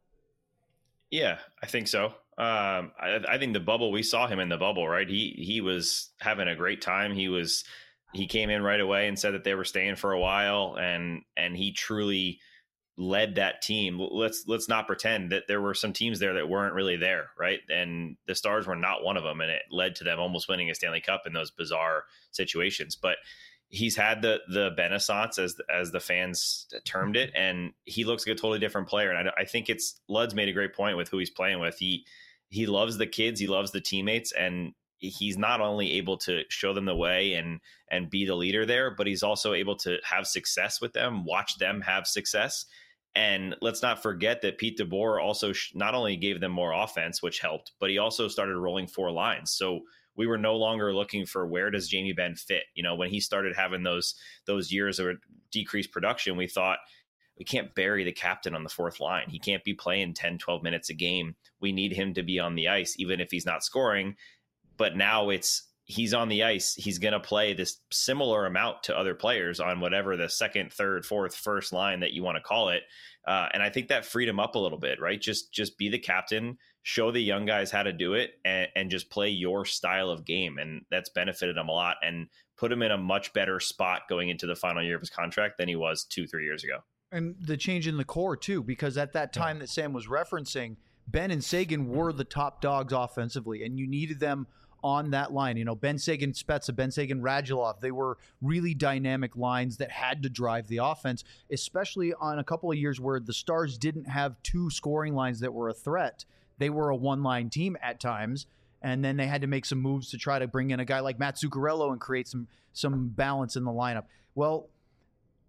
Yeah, I think so. Um, I, I think the bubble, we saw him in the bubble, right? He he was having a great time. He was he came in right away and said that they were staying for a while, and and he truly led that team. Let's let's not pretend that there were some teams there that weren't really there, right? And the Stars were not one of them, and it led to them almost winning a Stanley Cup in those bizarre situations. But he's had the the Renaissance, as as the fans termed it, and he looks like a totally different player. And I, I think it's Lud's made a great point with who he's playing with. He he loves the kids, he loves the teammates, and he's not only able to show them the way and and be the leader there, but he's also able to have success with them, watch them have success. And let's not forget that Pete DeBoer also sh- not only gave them more offense, which helped, but he also started rolling four lines. So we were no longer looking for where does Jamie Benn fit. You know, when he started having those those years of decreased production, we thought we can't bury the captain on the fourth line. He can't be playing ten, twelve minutes a game. We need him to be on the ice, even if he's not scoring. But now it's he's on the ice. He's going to play this similar amount to other players on whatever the second, third, fourth, first line that you want to call it. Uh, and I think that freed him up a little bit, right? Just just be the captain, show the young guys how to do it, and, and just play your style of game. And that's benefited him a lot and put him in a much better spot going into the final year of his contract than he was two, three years ago. And the change in the core, too, because at that time that Sam was referencing, Benn and Seguin were the top dogs offensively, and you needed them on that line. You know, Benn Seguin, Spezza, Benn Seguin, Radulov, they were really dynamic lines that had to drive the offense, especially on a couple of years where the Stars didn't have two scoring lines that were a threat. They were a one-line team at times, and then they had to make some moves to try to bring in a guy like Matt Zuccarello and create some some balance in the lineup. Well,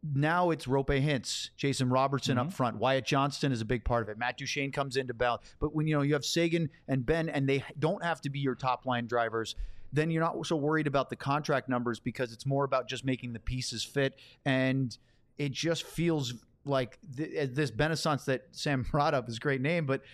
now it's Rope Hintz, Jason Robertson Mm-hmm. up front. Wyatt Johnston is a big part of it. Matt Duchene comes into balance. But when you know you have Sagan and Ben, and they don't have to be your top line drivers, then you're not so worried about the contract numbers because it's more about just making the pieces fit. And it just feels like th- this Benassance that Sam brought up is a great name, but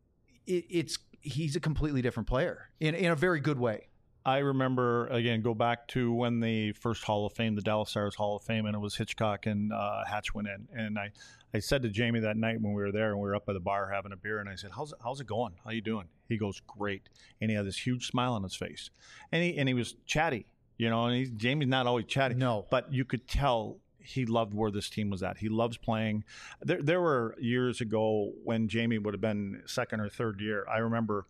it, it's he's a completely different player in, in a very good way. I remember, again, go back to when the first Hall of Fame, the Dallas Stars Hall of Fame, and it was Hitchcock and uh, Hatch went in. And I, I said to Jamie that night when we were there and we were up by the bar having a beer, and I said, how's it, how's it going? How you doing? He goes, great. And he had this huge smile on his face. And he, and he was chatty, you know, and he's, Jamie's not always chatty. No. But you could tell he loved where this team was at. He loves playing. There, there were years ago when Jamie would have been second or third year. I remember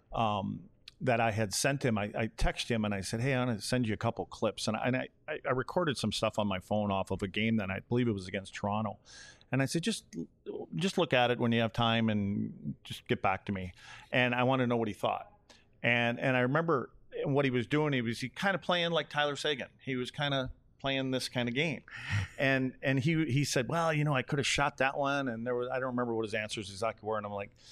um, that I had sent him. I, I texted him and I said, hey, I'm going to send you a couple clips. And, I, and I, I recorded some stuff on my phone off of a game that I believe it was against Toronto. And I said, just just look at it when you have time and just get back to me. And I want to know what he thought. And and I remember what he was doing. He was he kind of playing like Tyler Seguin. He was kind of playing this kind of game. And and he he said, well, you know, I could have shot that one. And there was, I don't remember what his answers exactly were. And I'm like,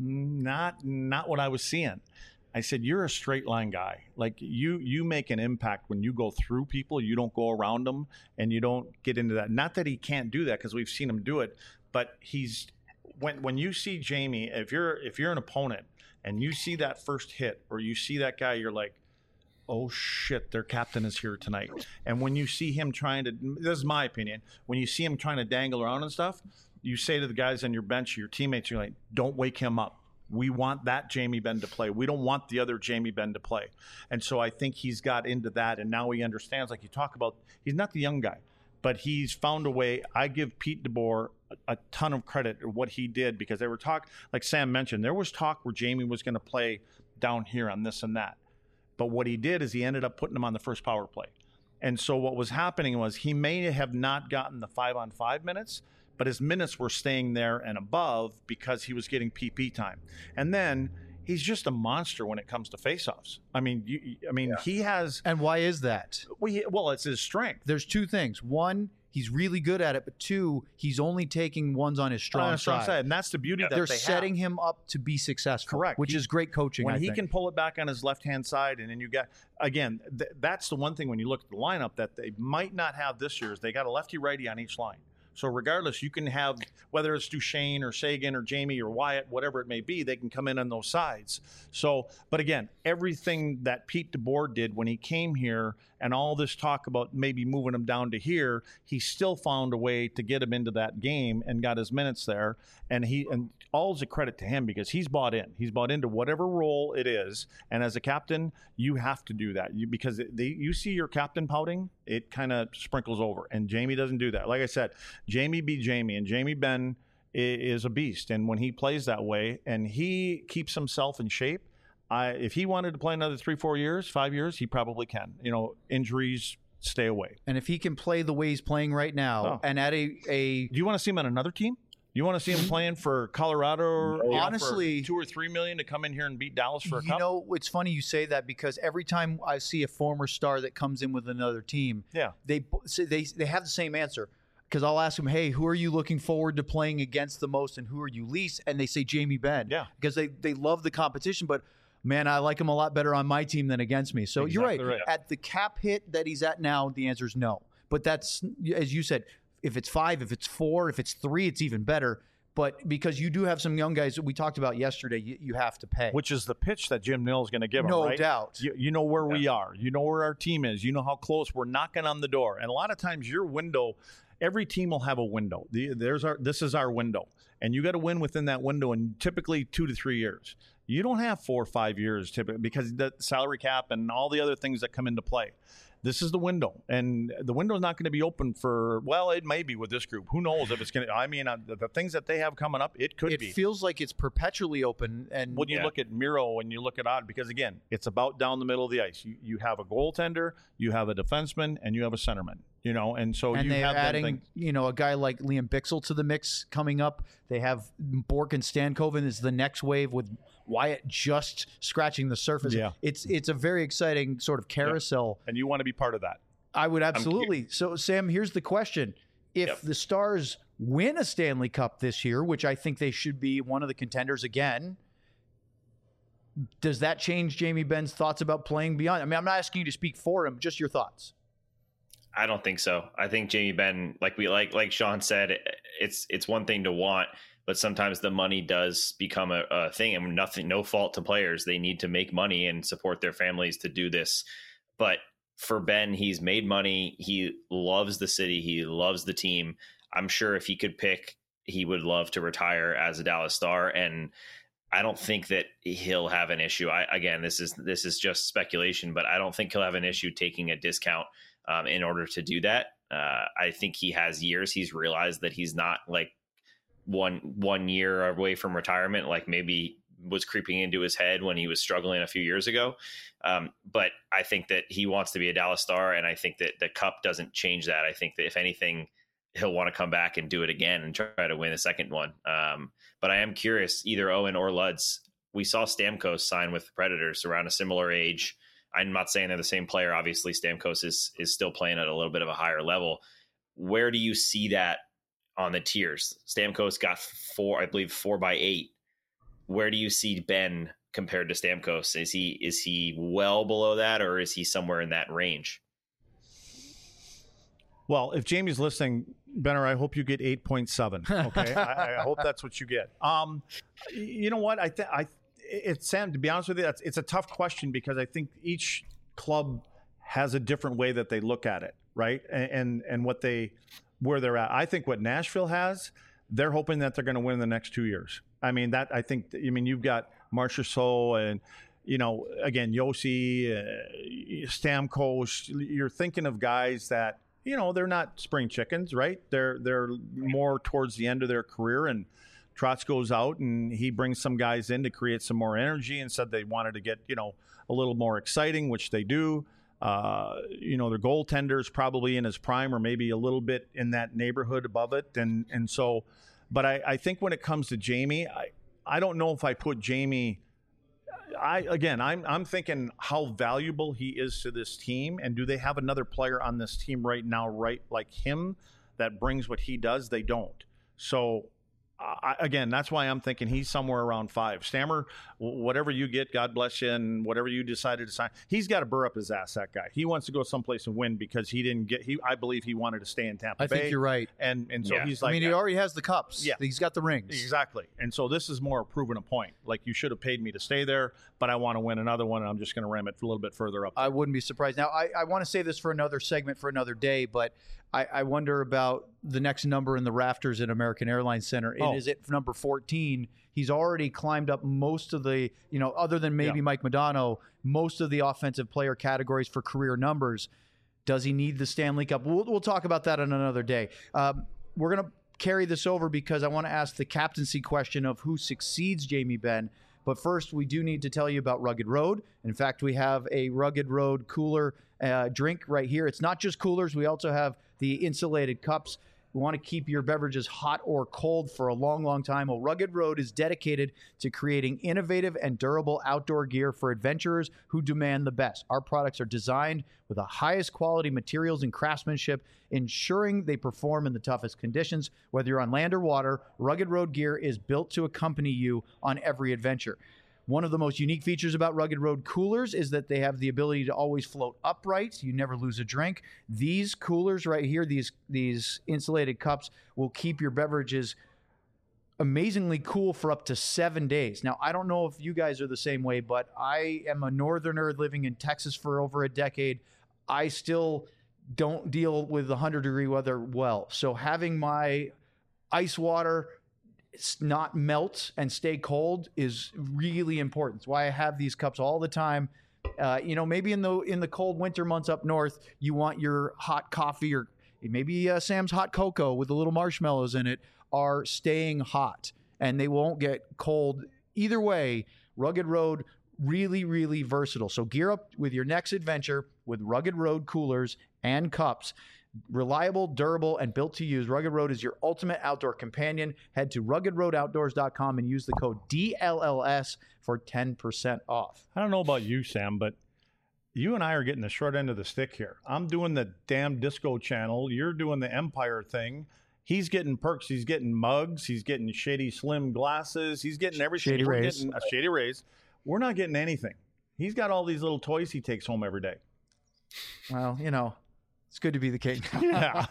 not not what I was seeing. I said, you're a straight line guy. Like you, you make an impact when you go through people. You don't go around them, and you don't get into that. Not that he can't do that, because we've seen him do it. But he's when when you see Jamie, if you're if you're an opponent and you see that first hit or you see that guy, you're like, oh shit, their captain is here tonight. And when you see him trying to, this is my opinion, when you see him trying to dangle around and stuff, you say to the guys on your bench, your teammates, you're like, don't wake him up. We want that Jamie Benn to play. We don't want the other Jamie Benn to play. And so I think he's got into that, and now he understands, like you talk about, he's not the young guy, but he's found a way. I give Pete DeBoer a, a ton of credit for what he did, because they were talk, like Sam mentioned, there was talk where Jamie was going to play down here on this and that. But what he did is he ended up putting him on the first power play. And so what was happening was he may have not gotten the five-on-five minutes, but his minutes were staying there and above because he was getting P P time. And then he's just a monster when it comes to faceoffs. I mean, you, I mean, yeah. he has. And why is that? Well, he, well, it's his strength. There's two things. One, he's really good at it, but two, he's only taking ones on his strong, on strong side. side. And that's the beauty yeah. that they're they setting have. him up to be successful. Correct. Which he, is great coaching. When I he think. can pull it back on his left-hand side, and then you got, again, th- that's the one thing when you look at the lineup that they might not have this year is they got a lefty-righty on each line. So regardless, you can have, whether it's Duchene or Sagan or Jamie or Wyatt, whatever it may be, they can come in on those sides. So, but again, everything that Pete DeBoer did when he came here and all this talk about maybe moving him down to here, he still found a way to get him into that game and got his minutes there. And he, and all's a credit to him because he's bought in. He's bought into whatever role it is. And as a captain, you have to do that you, because they, you see your captain pouting, it kind of sprinkles over. And Jamie doesn't do that. Like I said, Jamie be Jamie, and Jamie Benn is a beast. And when he plays that way and he keeps himself in shape, I, if he wanted to play another three, four years, five years, he probably can. You know, injuries, stay away. And if he can play the way he's playing right now, oh. and at a, a, do you want to see him on another team? You want to see him playing for Colorado? Or, no. Honestly, for two or three million to come in here and beat Dallas for a you cup? You know, it's funny you say that because every time I see a former star that comes in with another team, yeah, they they they have the same answer. Because I'll ask them, hey, who are you looking forward to playing against the most, and who are you least? And they say Jamie Benn. Yeah, because they they love the competition, but. Man, I like him a lot better on my team than against me. So exactly you're right. right. At the cap hit that he's at now, the answer is no. But that's, as you said, if it's five, if it's four, if it's three, it's even better. But because you do have some young guys that we talked about yesterday, you, you have to pay. Which is the pitch that Jim Nill is going to give them, no right? doubt. You, you know where yeah. we are. You know where our team is. You know how close we're knocking on the door. And a lot of times your window, every team will have a window. The, there's our. This is our window. And you got to win within that window in typically two to three years. You don't have four or five years typically because the salary cap and all the other things that come into play. This is the window, and the window is not going to be open for, well, it may be with this group. Who knows if it's going to, I mean, uh, the, the things that they have coming up, it could it be. It feels like it's perpetually open. And when you yeah. look at Miro and you look at Odd, because again, it's about down the middle of the ice. You, you have a goaltender, you have a defenseman, and you have a centerman, you know, and so and you they're have adding, you know, a guy like Liam Bixel to the mix coming up. They have Bork and Stankoven is the next wave with Wyatt just scratching the surface. Yeah. It's, it's a very exciting sort of carousel. Yeah. And you want to be part of that. I would absolutely. So, Sam, here's the question. if Yep. the Stars win a Stanley Cup this year, which I think they should be one of the contenders again, does that change Jamie Benn's thoughts about playing beyond? I mean, I'm not asking you to speak for him, just your thoughts. I don't think so. I think Jamie Benn, like we like like Sean said, it's it's one thing to want, but sometimes the money does become a, a thing, and nothing, no fault to players. They need to make money and support their families to do this. But for Ben, he's made money. He loves the city. He loves the team. I'm sure if he could pick, he would love to retire as a Dallas Star. And I don't think that he'll have an issue. I, again, this is this is just speculation, but I don't think he'll have an issue taking a discount um, in order to do that. Uh, I think he has years. He's realized that he's not like one one year away from retirement, like maybe was creeping into his head when he was struggling a few years ago. Um, but I think that he wants to be a Dallas Star, and I think that the Cup doesn't change that. I think that if anything, he'll want to come back and do it again and try to win a second one. Um, but I am curious, either Owen or Luds, we saw Stamkos sign with the Predators around a similar age. I'm not saying they're the same player. Obviously, Stamkos is is still playing at a little bit of a higher level. Where do you see that on the tiers? Stamkos got four, I believe, four by eight. Where do you see Ben compared to Stamkos? Is he is he well below that, or is he somewhere in that range? Well, if Jamie's listening, Benner, I hope you get eight point seven. Okay, I, I hope that's what you get. Um, you know what? I think I it's Sam. To be honest with you, that's it's a tough question because I think each club has a different way that they look at it, right? And and, and what they where they're at. I think what Nashville has, they're hoping that they're going to win in the next two years. I mean that. I think. I mean you've got Marchessault and. You know, again, Yossi, uh, Stamkos. You're thinking of guys that. You know, they're not spring chickens, right? They're they're more towards the end of their career, and Trotz goes out and he brings some guys in to create some more energy and said they wanted to get, you know, a little more exciting, which they do. Uh, you know, their goaltender's probably in his prime or maybe a little bit in that neighborhood above it. And and so, but I, I think when it comes to Jamie, I, I don't know if I put Jamie – I again, I'm I'm thinking how valuable he is to this team, and do they have another player on this team right now, right like him, that brings what he does? They don't. So, I, again, that's why I'm thinking he's somewhere around five. Stammer, whatever you get, God bless you, and whatever you decided to sign, he's got to burr up his ass. That guy, he wants to go someplace and win because he didn't get. He, I believe, he wanted to stay in Tampa I Bay. think you're right, and and so yeah. he's like, I mean, he already has the cups. Yeah, he's got the rings. Exactly. And so this is more proving a point. Like, you should have paid me to stay there, but I want to win another one, and I'm just going to ram it a little bit further up. I wouldn't be surprised. Now, I, I want to say this for another segment for another day, but I, I wonder about the next number in the rafters at American Airlines Center. And Oh. is it number fourteen? He's already climbed up most of the, you know, other than maybe Yeah. Mike Modano, most of the offensive player categories for career numbers. Does he need the Stanley Cup? We'll, we'll talk about that on another day. Um, we're going to carry this over because I want to ask the captaincy question of who succeeds Jamie Benn. But first, we do need to tell you about Rugged Road. In fact, we have a Rugged Road cooler uh, drink right here. It's not just coolers. We also have the insulated cups. We want to keep your beverages hot or cold for a long, long time. Well, Rugged Road is dedicated to creating innovative and durable outdoor gear for adventurers who demand the best. Our products are designed with the highest quality materials and craftsmanship, ensuring they perform in the toughest conditions. Whether you're on land or water, Rugged Road gear is built to accompany you on every adventure. One of the most unique features about Rugged Road coolers is that they have the ability to always float upright. You never lose a drink. These coolers right here, these these insulated cups, will keep your beverages amazingly cool for up to seven days. Now, I don't know if you guys are the same way, but I am a northerner living in Texas for over a decade. I still don't deal with one hundred degree weather well. So having my ice water not melt and stay cold is really important. It's why I have these cups all the time. Uh, you know, maybe in the in the cold winter months up north, you want your hot coffee or maybe uh, Sam's hot cocoa with the little marshmallows in it are staying hot and they won't get cold. Either way, Rugged Road, really, really versatile. So gear up with your next adventure with Rugged Road coolers and cups. Reliable, durable, and built to use, Rugged Road is your ultimate outdoor companion. Head to rugged road outdoors dot com and use the code D L L S for ten percent off. I don't know about you, Sam, but you and I are getting the short end of the stick here. I'm doing the damn Disco channel. You're doing the Empire thing. He's getting perks. He's getting mugs. He's getting Shady Slim glasses. He's getting everything. Shady We're Rays. getting a Shady Rays. We're not getting anything. He's got all these little toys he takes home every day. Well, you know, it's good to be the king. Yeah.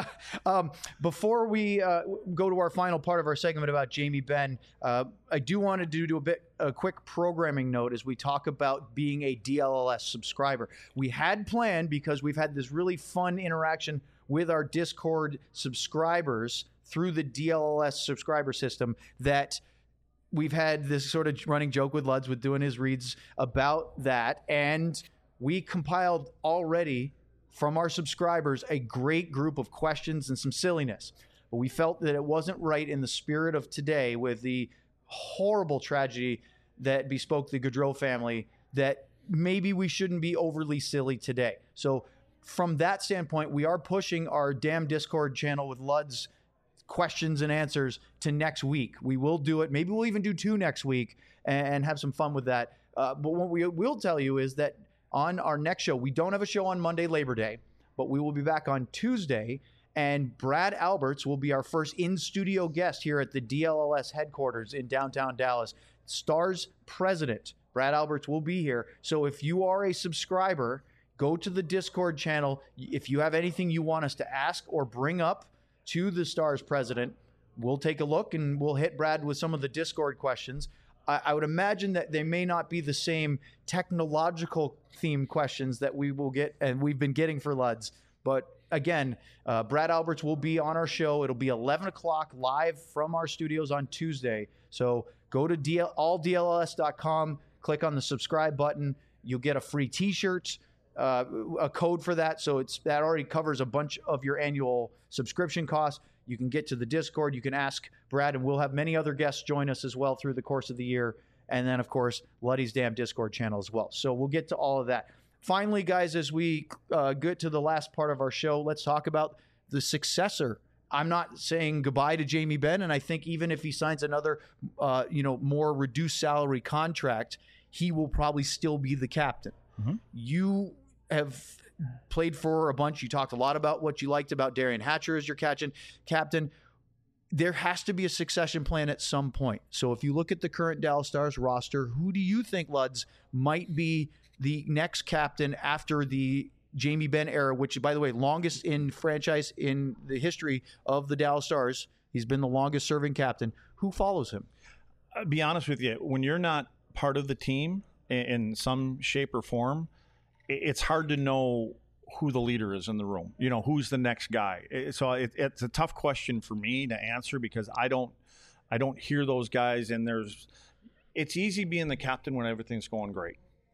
um, before we uh, go to our final part of our segment about Jamie Benn, uh, I do want to do, do a bit a quick programming note as we talk about being a D L L S subscriber. We had planned, because we've had this really fun interaction with our Discord subscribers through the D L L S subscriber system, that we've had this sort of running joke with Luds with doing his reads about that. And we compiled already from our subscribers a great group of questions and some silliness. But we felt that it wasn't right in the spirit of today, with the horrible tragedy that bespoke the Gaudreau family, that maybe we shouldn't be overly silly today. So from that standpoint, we are pushing our damn Discord channel with Luds questions and answers to next week. We will do it. Maybe we'll even do two next week and have some fun with that. Uh, but what we will tell you is that on our next show, we don't have a show on Monday, Labor Day, but we will be back on Tuesday, and Brad Alberts will be our first in-studio guest here at the D L L S headquarters in downtown Dallas. Stars president, Brad Alberts, will be here. So if you are a subscriber, go to the Discord channel. If you have anything you want us to ask or bring up to the Stars president, we'll take a look and we'll hit Brad with some of the Discord questions. I, I would imagine that they may not be the same technological themed questions that we will get and we've been getting for Luds. But again, uh, Brad Alberts will be on our show. It'll be eleven o'clock live from our studios on Tuesday. So go to D L, all D L L S dot com, click on the subscribe button. You'll get a free t-shirt, uh, a code for that. So it's that already covers a bunch of your annual subscription costs. You can get to the Discord. You can ask Brad, and we'll have many other guests join us as well through the course of the year. And then, of course, Luddy's Damn Discord channel as well. So we'll get to all of that. Finally, guys, as we uh, get to the last part of our show, let's talk about the successor. I'm not saying goodbye to Jamie Benn, and I think even if he signs another, uh, you know, more reduced salary contract, he will probably still be the captain. Mm-hmm. You have played for a bunch. You talked a lot about what you liked about Derian Hatcher as your catching captain. There has to be a succession plan at some point. So if you look at the current Dallas Stars roster, who do you think, Luds, might be the next captain after the Jamie Benn era, which, by the way, longest in franchise in the history of the Dallas Stars? He's been the longest serving captain. Who follows him? I'll be honest with you. When you're not part of the team in some shape or form, it's hard to know who the leader is in the room. You know, who's the next guy. So it, it's a tough question for me to answer because I don't, I don't hear those guys. And there's, it's easy being the captain when everything's going great.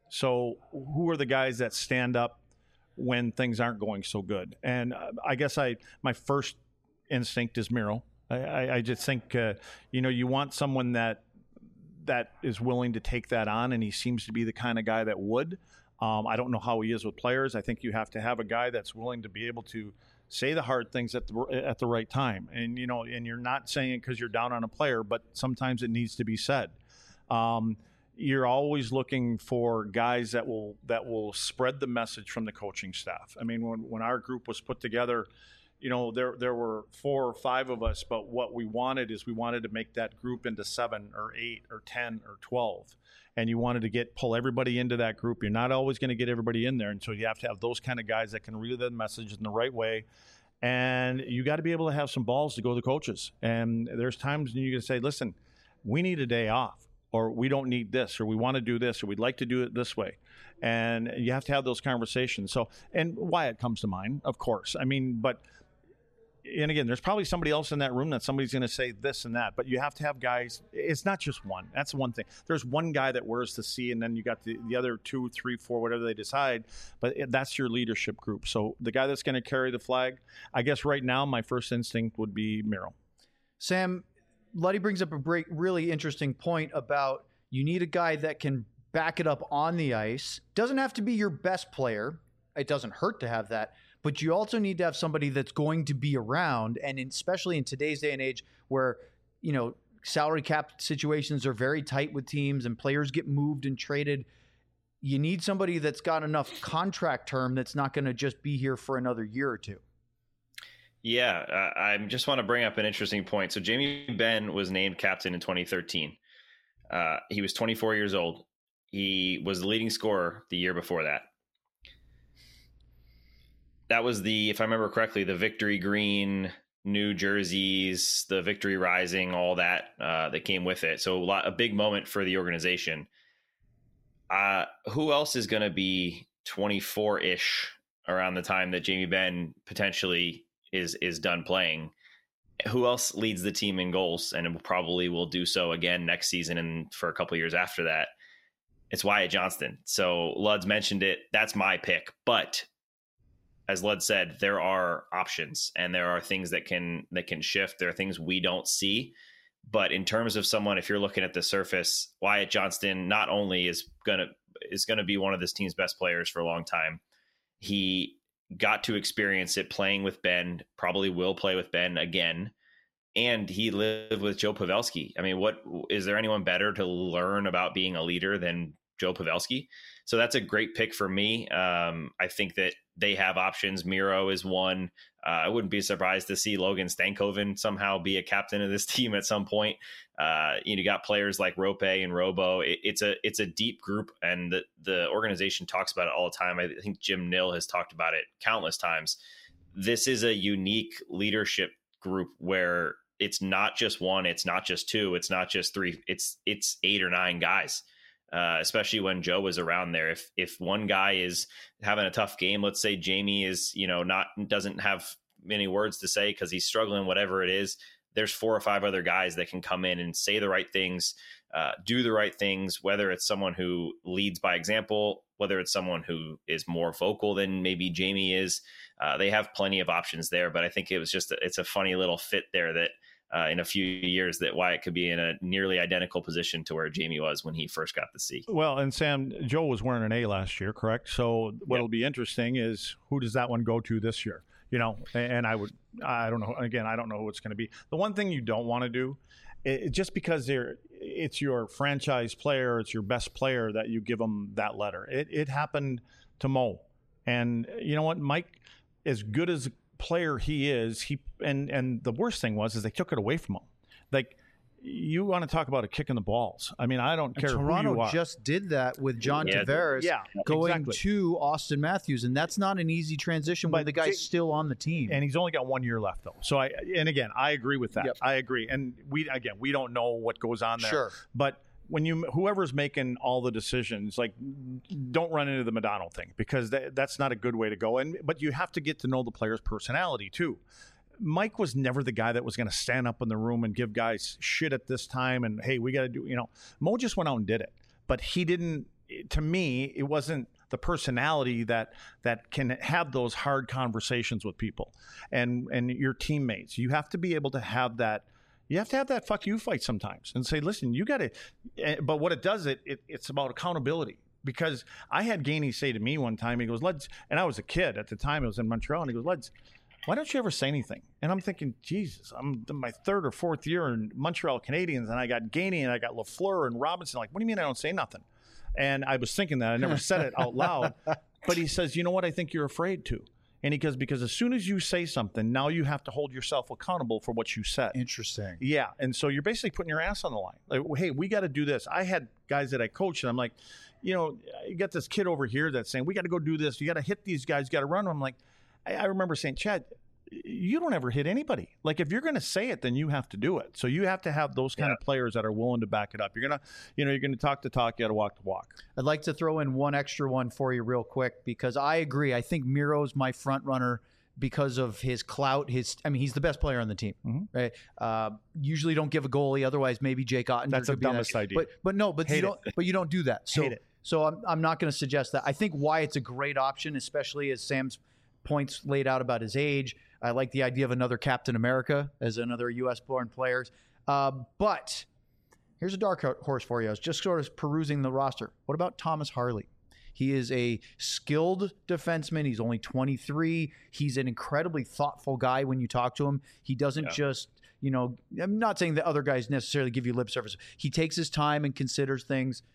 So who are the guys that stand up when things aren't going so good? And I guess I, my first instinct is Miro. I, I, I just think, uh, you know, you want someone that, that is willing to take that on. And he seems to be the kind of guy that would. Um, I don't know how he is with players. I think you have to have a guy that's willing to be able to say the hard things at the at the right time. And, you know, and you're not saying it because you're down on a player, but sometimes it needs to be said. Um, you're always looking for guys that will that will spread the message from the coaching staff. I mean, when, when our group was put together, you know, there there were four or five of us, but what we wanted is we wanted to make that group into seven or eight or ten or twelve. And you wanted to get pull everybody into that group. You're not always going to get everybody in there. And so you have to have those kind of guys that can relay the message in the right way. And you got to be able to have some balls to go to the coaches. And there's times when you can say, listen, we need a day off, or we don't need this, or we want to do this, or we'd like to do it this way. And you have to have those conversations. So, and Wyatt comes to mind, of course. I mean, but and again, there's probably somebody else in that room that somebody's going to say this and that, but you have to have guys. It's not just one. That's one thing. There's one guy that wears the C, and then you got the, the other two, three, four, whatever they decide, but it, that's your leadership group. So the guy that's going to carry the flag, I guess right now, my first instinct would be Miro. Sam, Luddy brings up a great, really interesting point about you need a guy that can back it up on the ice. Doesn't have to be your best player. It doesn't hurt to have that. But you also need to have somebody that's going to be around, and in, especially in today's day and age where, you know, salary cap situations are very tight with teams and players get moved and traded. you need somebody that's got enough contract term that's not going to just be here for another year or two. Yeah, uh, I just want to bring up an interesting point. So Jamie Benn was named captain in twenty thirteen. Uh, he was twenty-four years old. He was the leading scorer the year before that. That was the, if I remember correctly, the Victory Green, new jerseys, the Victory Rising, all that uh, that came with it. So a, lot, a big moment for the organization. Uh, who else is going to be twenty-four-ish around the time that Jamie Benn potentially is is done playing? Who else leads the team in goals and probably will do so again next season and for a couple of years after that? It's Wyatt Johnston. So Lud's mentioned it. That's my pick. But as Lud said, there are options and there are things that can that can shift. There are things we don't see. But in terms of someone, if you're looking at the surface, Wyatt Johnston not only is gonna is gonna be one of this team's best players for a long time. He got to experience it playing with Ben, probably will play with Ben again. And he lived with Joe Pavelski. I mean, what is there anyone better to learn about being a leader than Joe Pavelski? So that's a great pick for me. Um, I think that they have options. Miro is one. Uh, I wouldn't be surprised to see Logan Stankoven somehow be a captain of this team at some point. Uh, you know, you got players like Rope and Robo. It, it's a it's a deep group, and the the organization talks about it all the time. I think Jim Nill has talked about it countless times. This is a unique leadership group where it's not just one, it's not just two, it's not just three, it's it's eight or nine guys. Uh, especially when Joe was around there. If if one guy is having a tough game, let's say Jamie is, you know, not doesn't have many words to say because he's struggling, whatever it is, there's four or five other guys that can come in and say the right things, uh, do the right things, whether it's someone who leads by example, whether it's someone who is more vocal than maybe Jamie is. Uh, they have plenty of options there, but I think it was just, a, it's a funny little fit there that Uh, in a few years that Wyatt could be in a nearly identical position to where Jamie was when he first got the C. Well, and Sam, Joe was wearing an A last year, correct? So what'll yep. be interesting is who does that one go to this year? You know, and I would, I don't know. Again, I don't know who it's going to be. The one thing you don't want to do, it, just because they're, it's your franchise player, it's your best player that you give them that letter. It, it happened to Mo, and you know what, Mike, as good as player he is, he and and the worst thing was is they took it away from him. Like, you want to talk about a kick in the balls. I mean, I don't care and Toronto who you are. just did that with John yeah, Tavares yeah, going exactly. to Austin Matthews, and that's not an easy transition when But the guy's J- still on the team. And he's only got one year left, though. So I and again, I agree with that. Yep. I agree. And we again, we don't know what goes on there. Sure. But when you whoever's making all the decisions, like, don't run into the Modano thing, because that, that's not a good way to go. And but you have to get to know the player's personality too. Mike was never the guy that was going to stand up in the room and give guys shit at this time and, hey, we got to do, you know, Mo just went out and did it. But he didn't, to me, it wasn't the personality that that can have those hard conversations with people and and your teammates. You have to be able to have that. You have to have that fuck you fight sometimes and say, listen, you got to, but what it does, it, it it's about accountability. Because I had Gainey say to me one time, he goes, let's, and I was a kid at the time, I was in Montreal, and he goes, let's, why don't you ever say anything? And I'm thinking, Jesus, I'm in my third or fourth year in Montreal Canadiens, and I got Gainey and I got Lafleur and Robinson. Like, what do you mean I don't say nothing? And I was thinking that. I never said it out loud. But he says, you know what? I think you're afraid to. And he goes, because as soon as you say something, now you have to hold yourself accountable for what you said. Interesting. Yeah. And so you're basically putting your ass on the line. Like, hey, we got to do this. I had guys that I coached, and I'm like, you know, you got this kid over here that's saying, we got to go do this. You got to hit these guys. You got to run them. I'm like, I, I remember saying, Chad, you don't ever hit anybody. Like, if you're going to say it, then you have to do it. So you have to have those kind yeah. of players that are willing to back it up. You're going to, you know, you're going to talk the talk, you got to walk the walk. I'd like to throw in one extra one for you real quick, because I agree. I think Miro's my front runner because of his clout. His, I mean, he's the best player on the team, mm-hmm. right? Uh, usually don't give a goalie. Otherwise, maybe Jake Ottinger. That's the dumbest that. idea. But, but no, but Hate you don't, it. but you don't do that. So, Hate it. so I'm, I'm not going to suggest that. I think Wyatt's a great option, especially as Sam's points laid out about his age. I like the idea of another Captain America as another U S born players. Uh, but here's a dark horse for you. I was just sort of perusing the roster. What about Thomas Harley? He is a skilled defenseman. He's only twenty-three. He's an incredibly thoughtful guy when you talk to him. He doesn't yeah. just, you know, I'm not saying that other guys necessarily give you lip service. He takes his time and considers things.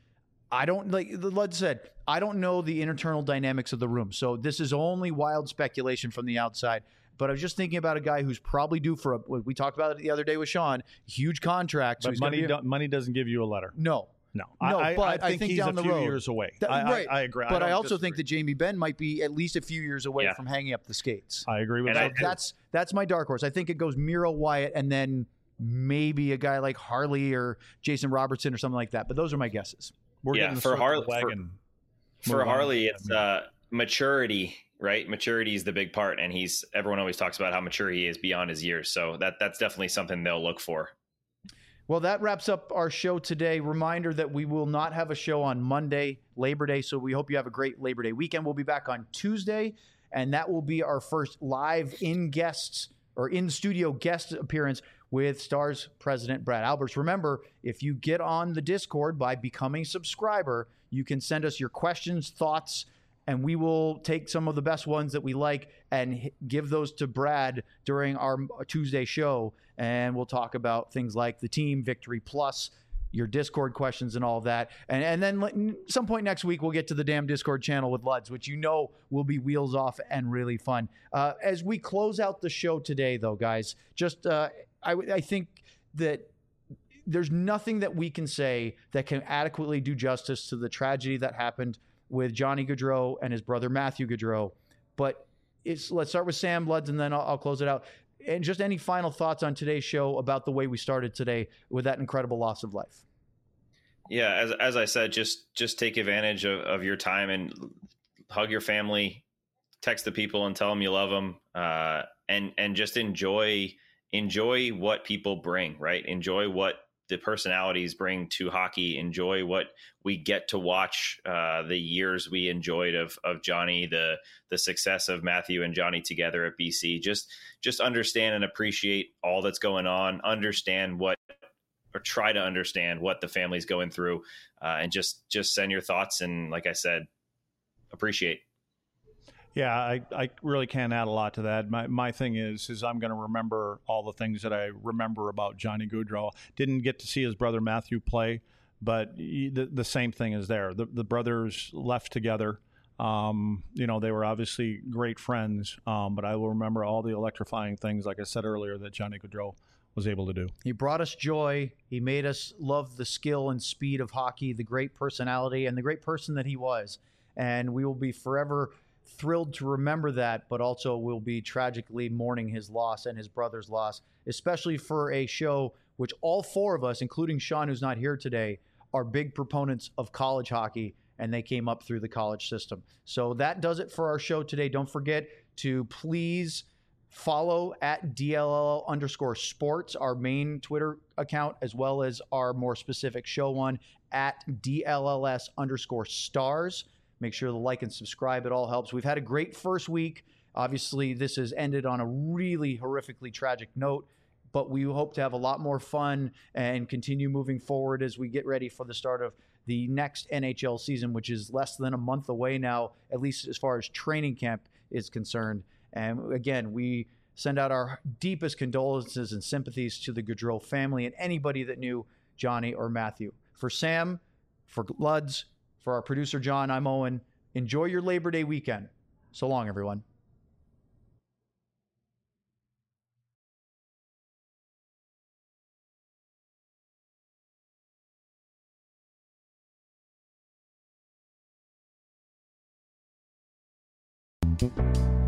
I don't, like Lud said, I don't know the internal dynamics of the room. So this is only wild speculation from the outside. But I was just thinking about a guy who's probably due for a, we talked about it the other day with Sean, huge contract. So but money, do, money doesn't give you a letter. No. No, no, I, but I, I, think I think he's down a the few road. years away. That, I, right. I, I agree. But I, I also disagree. think that Jamie Benn might be at least a few years away yeah. from hanging up the skates. I agree with and that. I, that's that's my dark horse. I think it goes Miro, Wyatt, and then maybe a guy like Harley or Jason Robertson or something like that. But those are my guesses. We're yeah, getting for Harley, wagon. for, for Harley, it's uh, maturity. Right, maturity is the big part, and he's everyone always talks about how mature he is beyond his years. So that that's definitely something they'll look for. Well, that wraps up our show today. Reminder that we will not have a show on Monday, Labor Day. So we hope you have a great Labor Day weekend. We'll be back on Tuesday, and that will be our first live in guests or in studio guest appearance with Stars President Brad Alberts. Remember, if you get on the Discord by becoming a subscriber, you can send us your questions, thoughts, and we will take some of the best ones that we like and give those to Brad during our Tuesday show. And we'll talk about things like the team, Victory Plus, your Discord questions and all of that. And, and then some point next week, we'll get to the damn Discord channel with Luds, which you know will be wheels off and really fun. Uh, as we close out the show today, though, guys, just uh, I, I think that there's nothing that we can say that can adequately do justice to the tragedy that happened with Johnny Gaudreau and his brother Matthew Gaudreau. But it's, let's start with Sam Luds, and then I'll, I'll close it out. And just any final thoughts on today's show about the way we started today with that incredible loss of life? Yeah, as as I said, just just take advantage of, of your time and hug your family, text the people and tell them you love them, uh, and and just enjoy enjoy what people bring, right? Enjoy what the personalities bring to hockey. Enjoy what we get to watch, uh, the years we enjoyed of of Johnny, the the success of Matthew and Johnny together at B C. Just just understand and appreciate all that's going on. Understand what, or try to understand what the family's going through, uh, and just just send your thoughts. And like I said, appreciate. Yeah, I, I really can't add a lot to that. My my thing is is I'm going to remember all the things that I remember about Johnny Gaudreau. Didn't get to see his brother Matthew play, but he, the, the same thing is there. The, the brothers left together. Um, you know, they were obviously great friends, um, but I will remember all the electrifying things, like I said earlier, that Johnny Gaudreau was able to do. He brought us joy. He made us love the skill and speed of hockey, the great personality, and the great person that he was. And we will be forever thrilled to remember that, but also will be tragically mourning his loss and his brother's loss, especially for a show which all four of us, including Sean, who's not here today, are big proponents of college hockey, and they came up through the college system. So that does it for our show today. Don't forget to please follow at D L L underscore sports, our main Twitter account, as well as our more specific show one at D L L S underscore stars. Make sure to like and subscribe. It all helps. We've had a great first week. Obviously, this has ended on a really horrifically tragic note, but we hope to have a lot more fun and continue moving forward as we get ready for the start of the next N H L season, which is less than a month away now, at least as far as training camp is concerned. And again, we send out our deepest condolences and sympathies to the Gaudreau family and anybody that knew Johnny or Matthew. For Sam, for Luds, for our producer, John, I'm Owen. Enjoy your Labor Day weekend. So long, everyone. Thank you.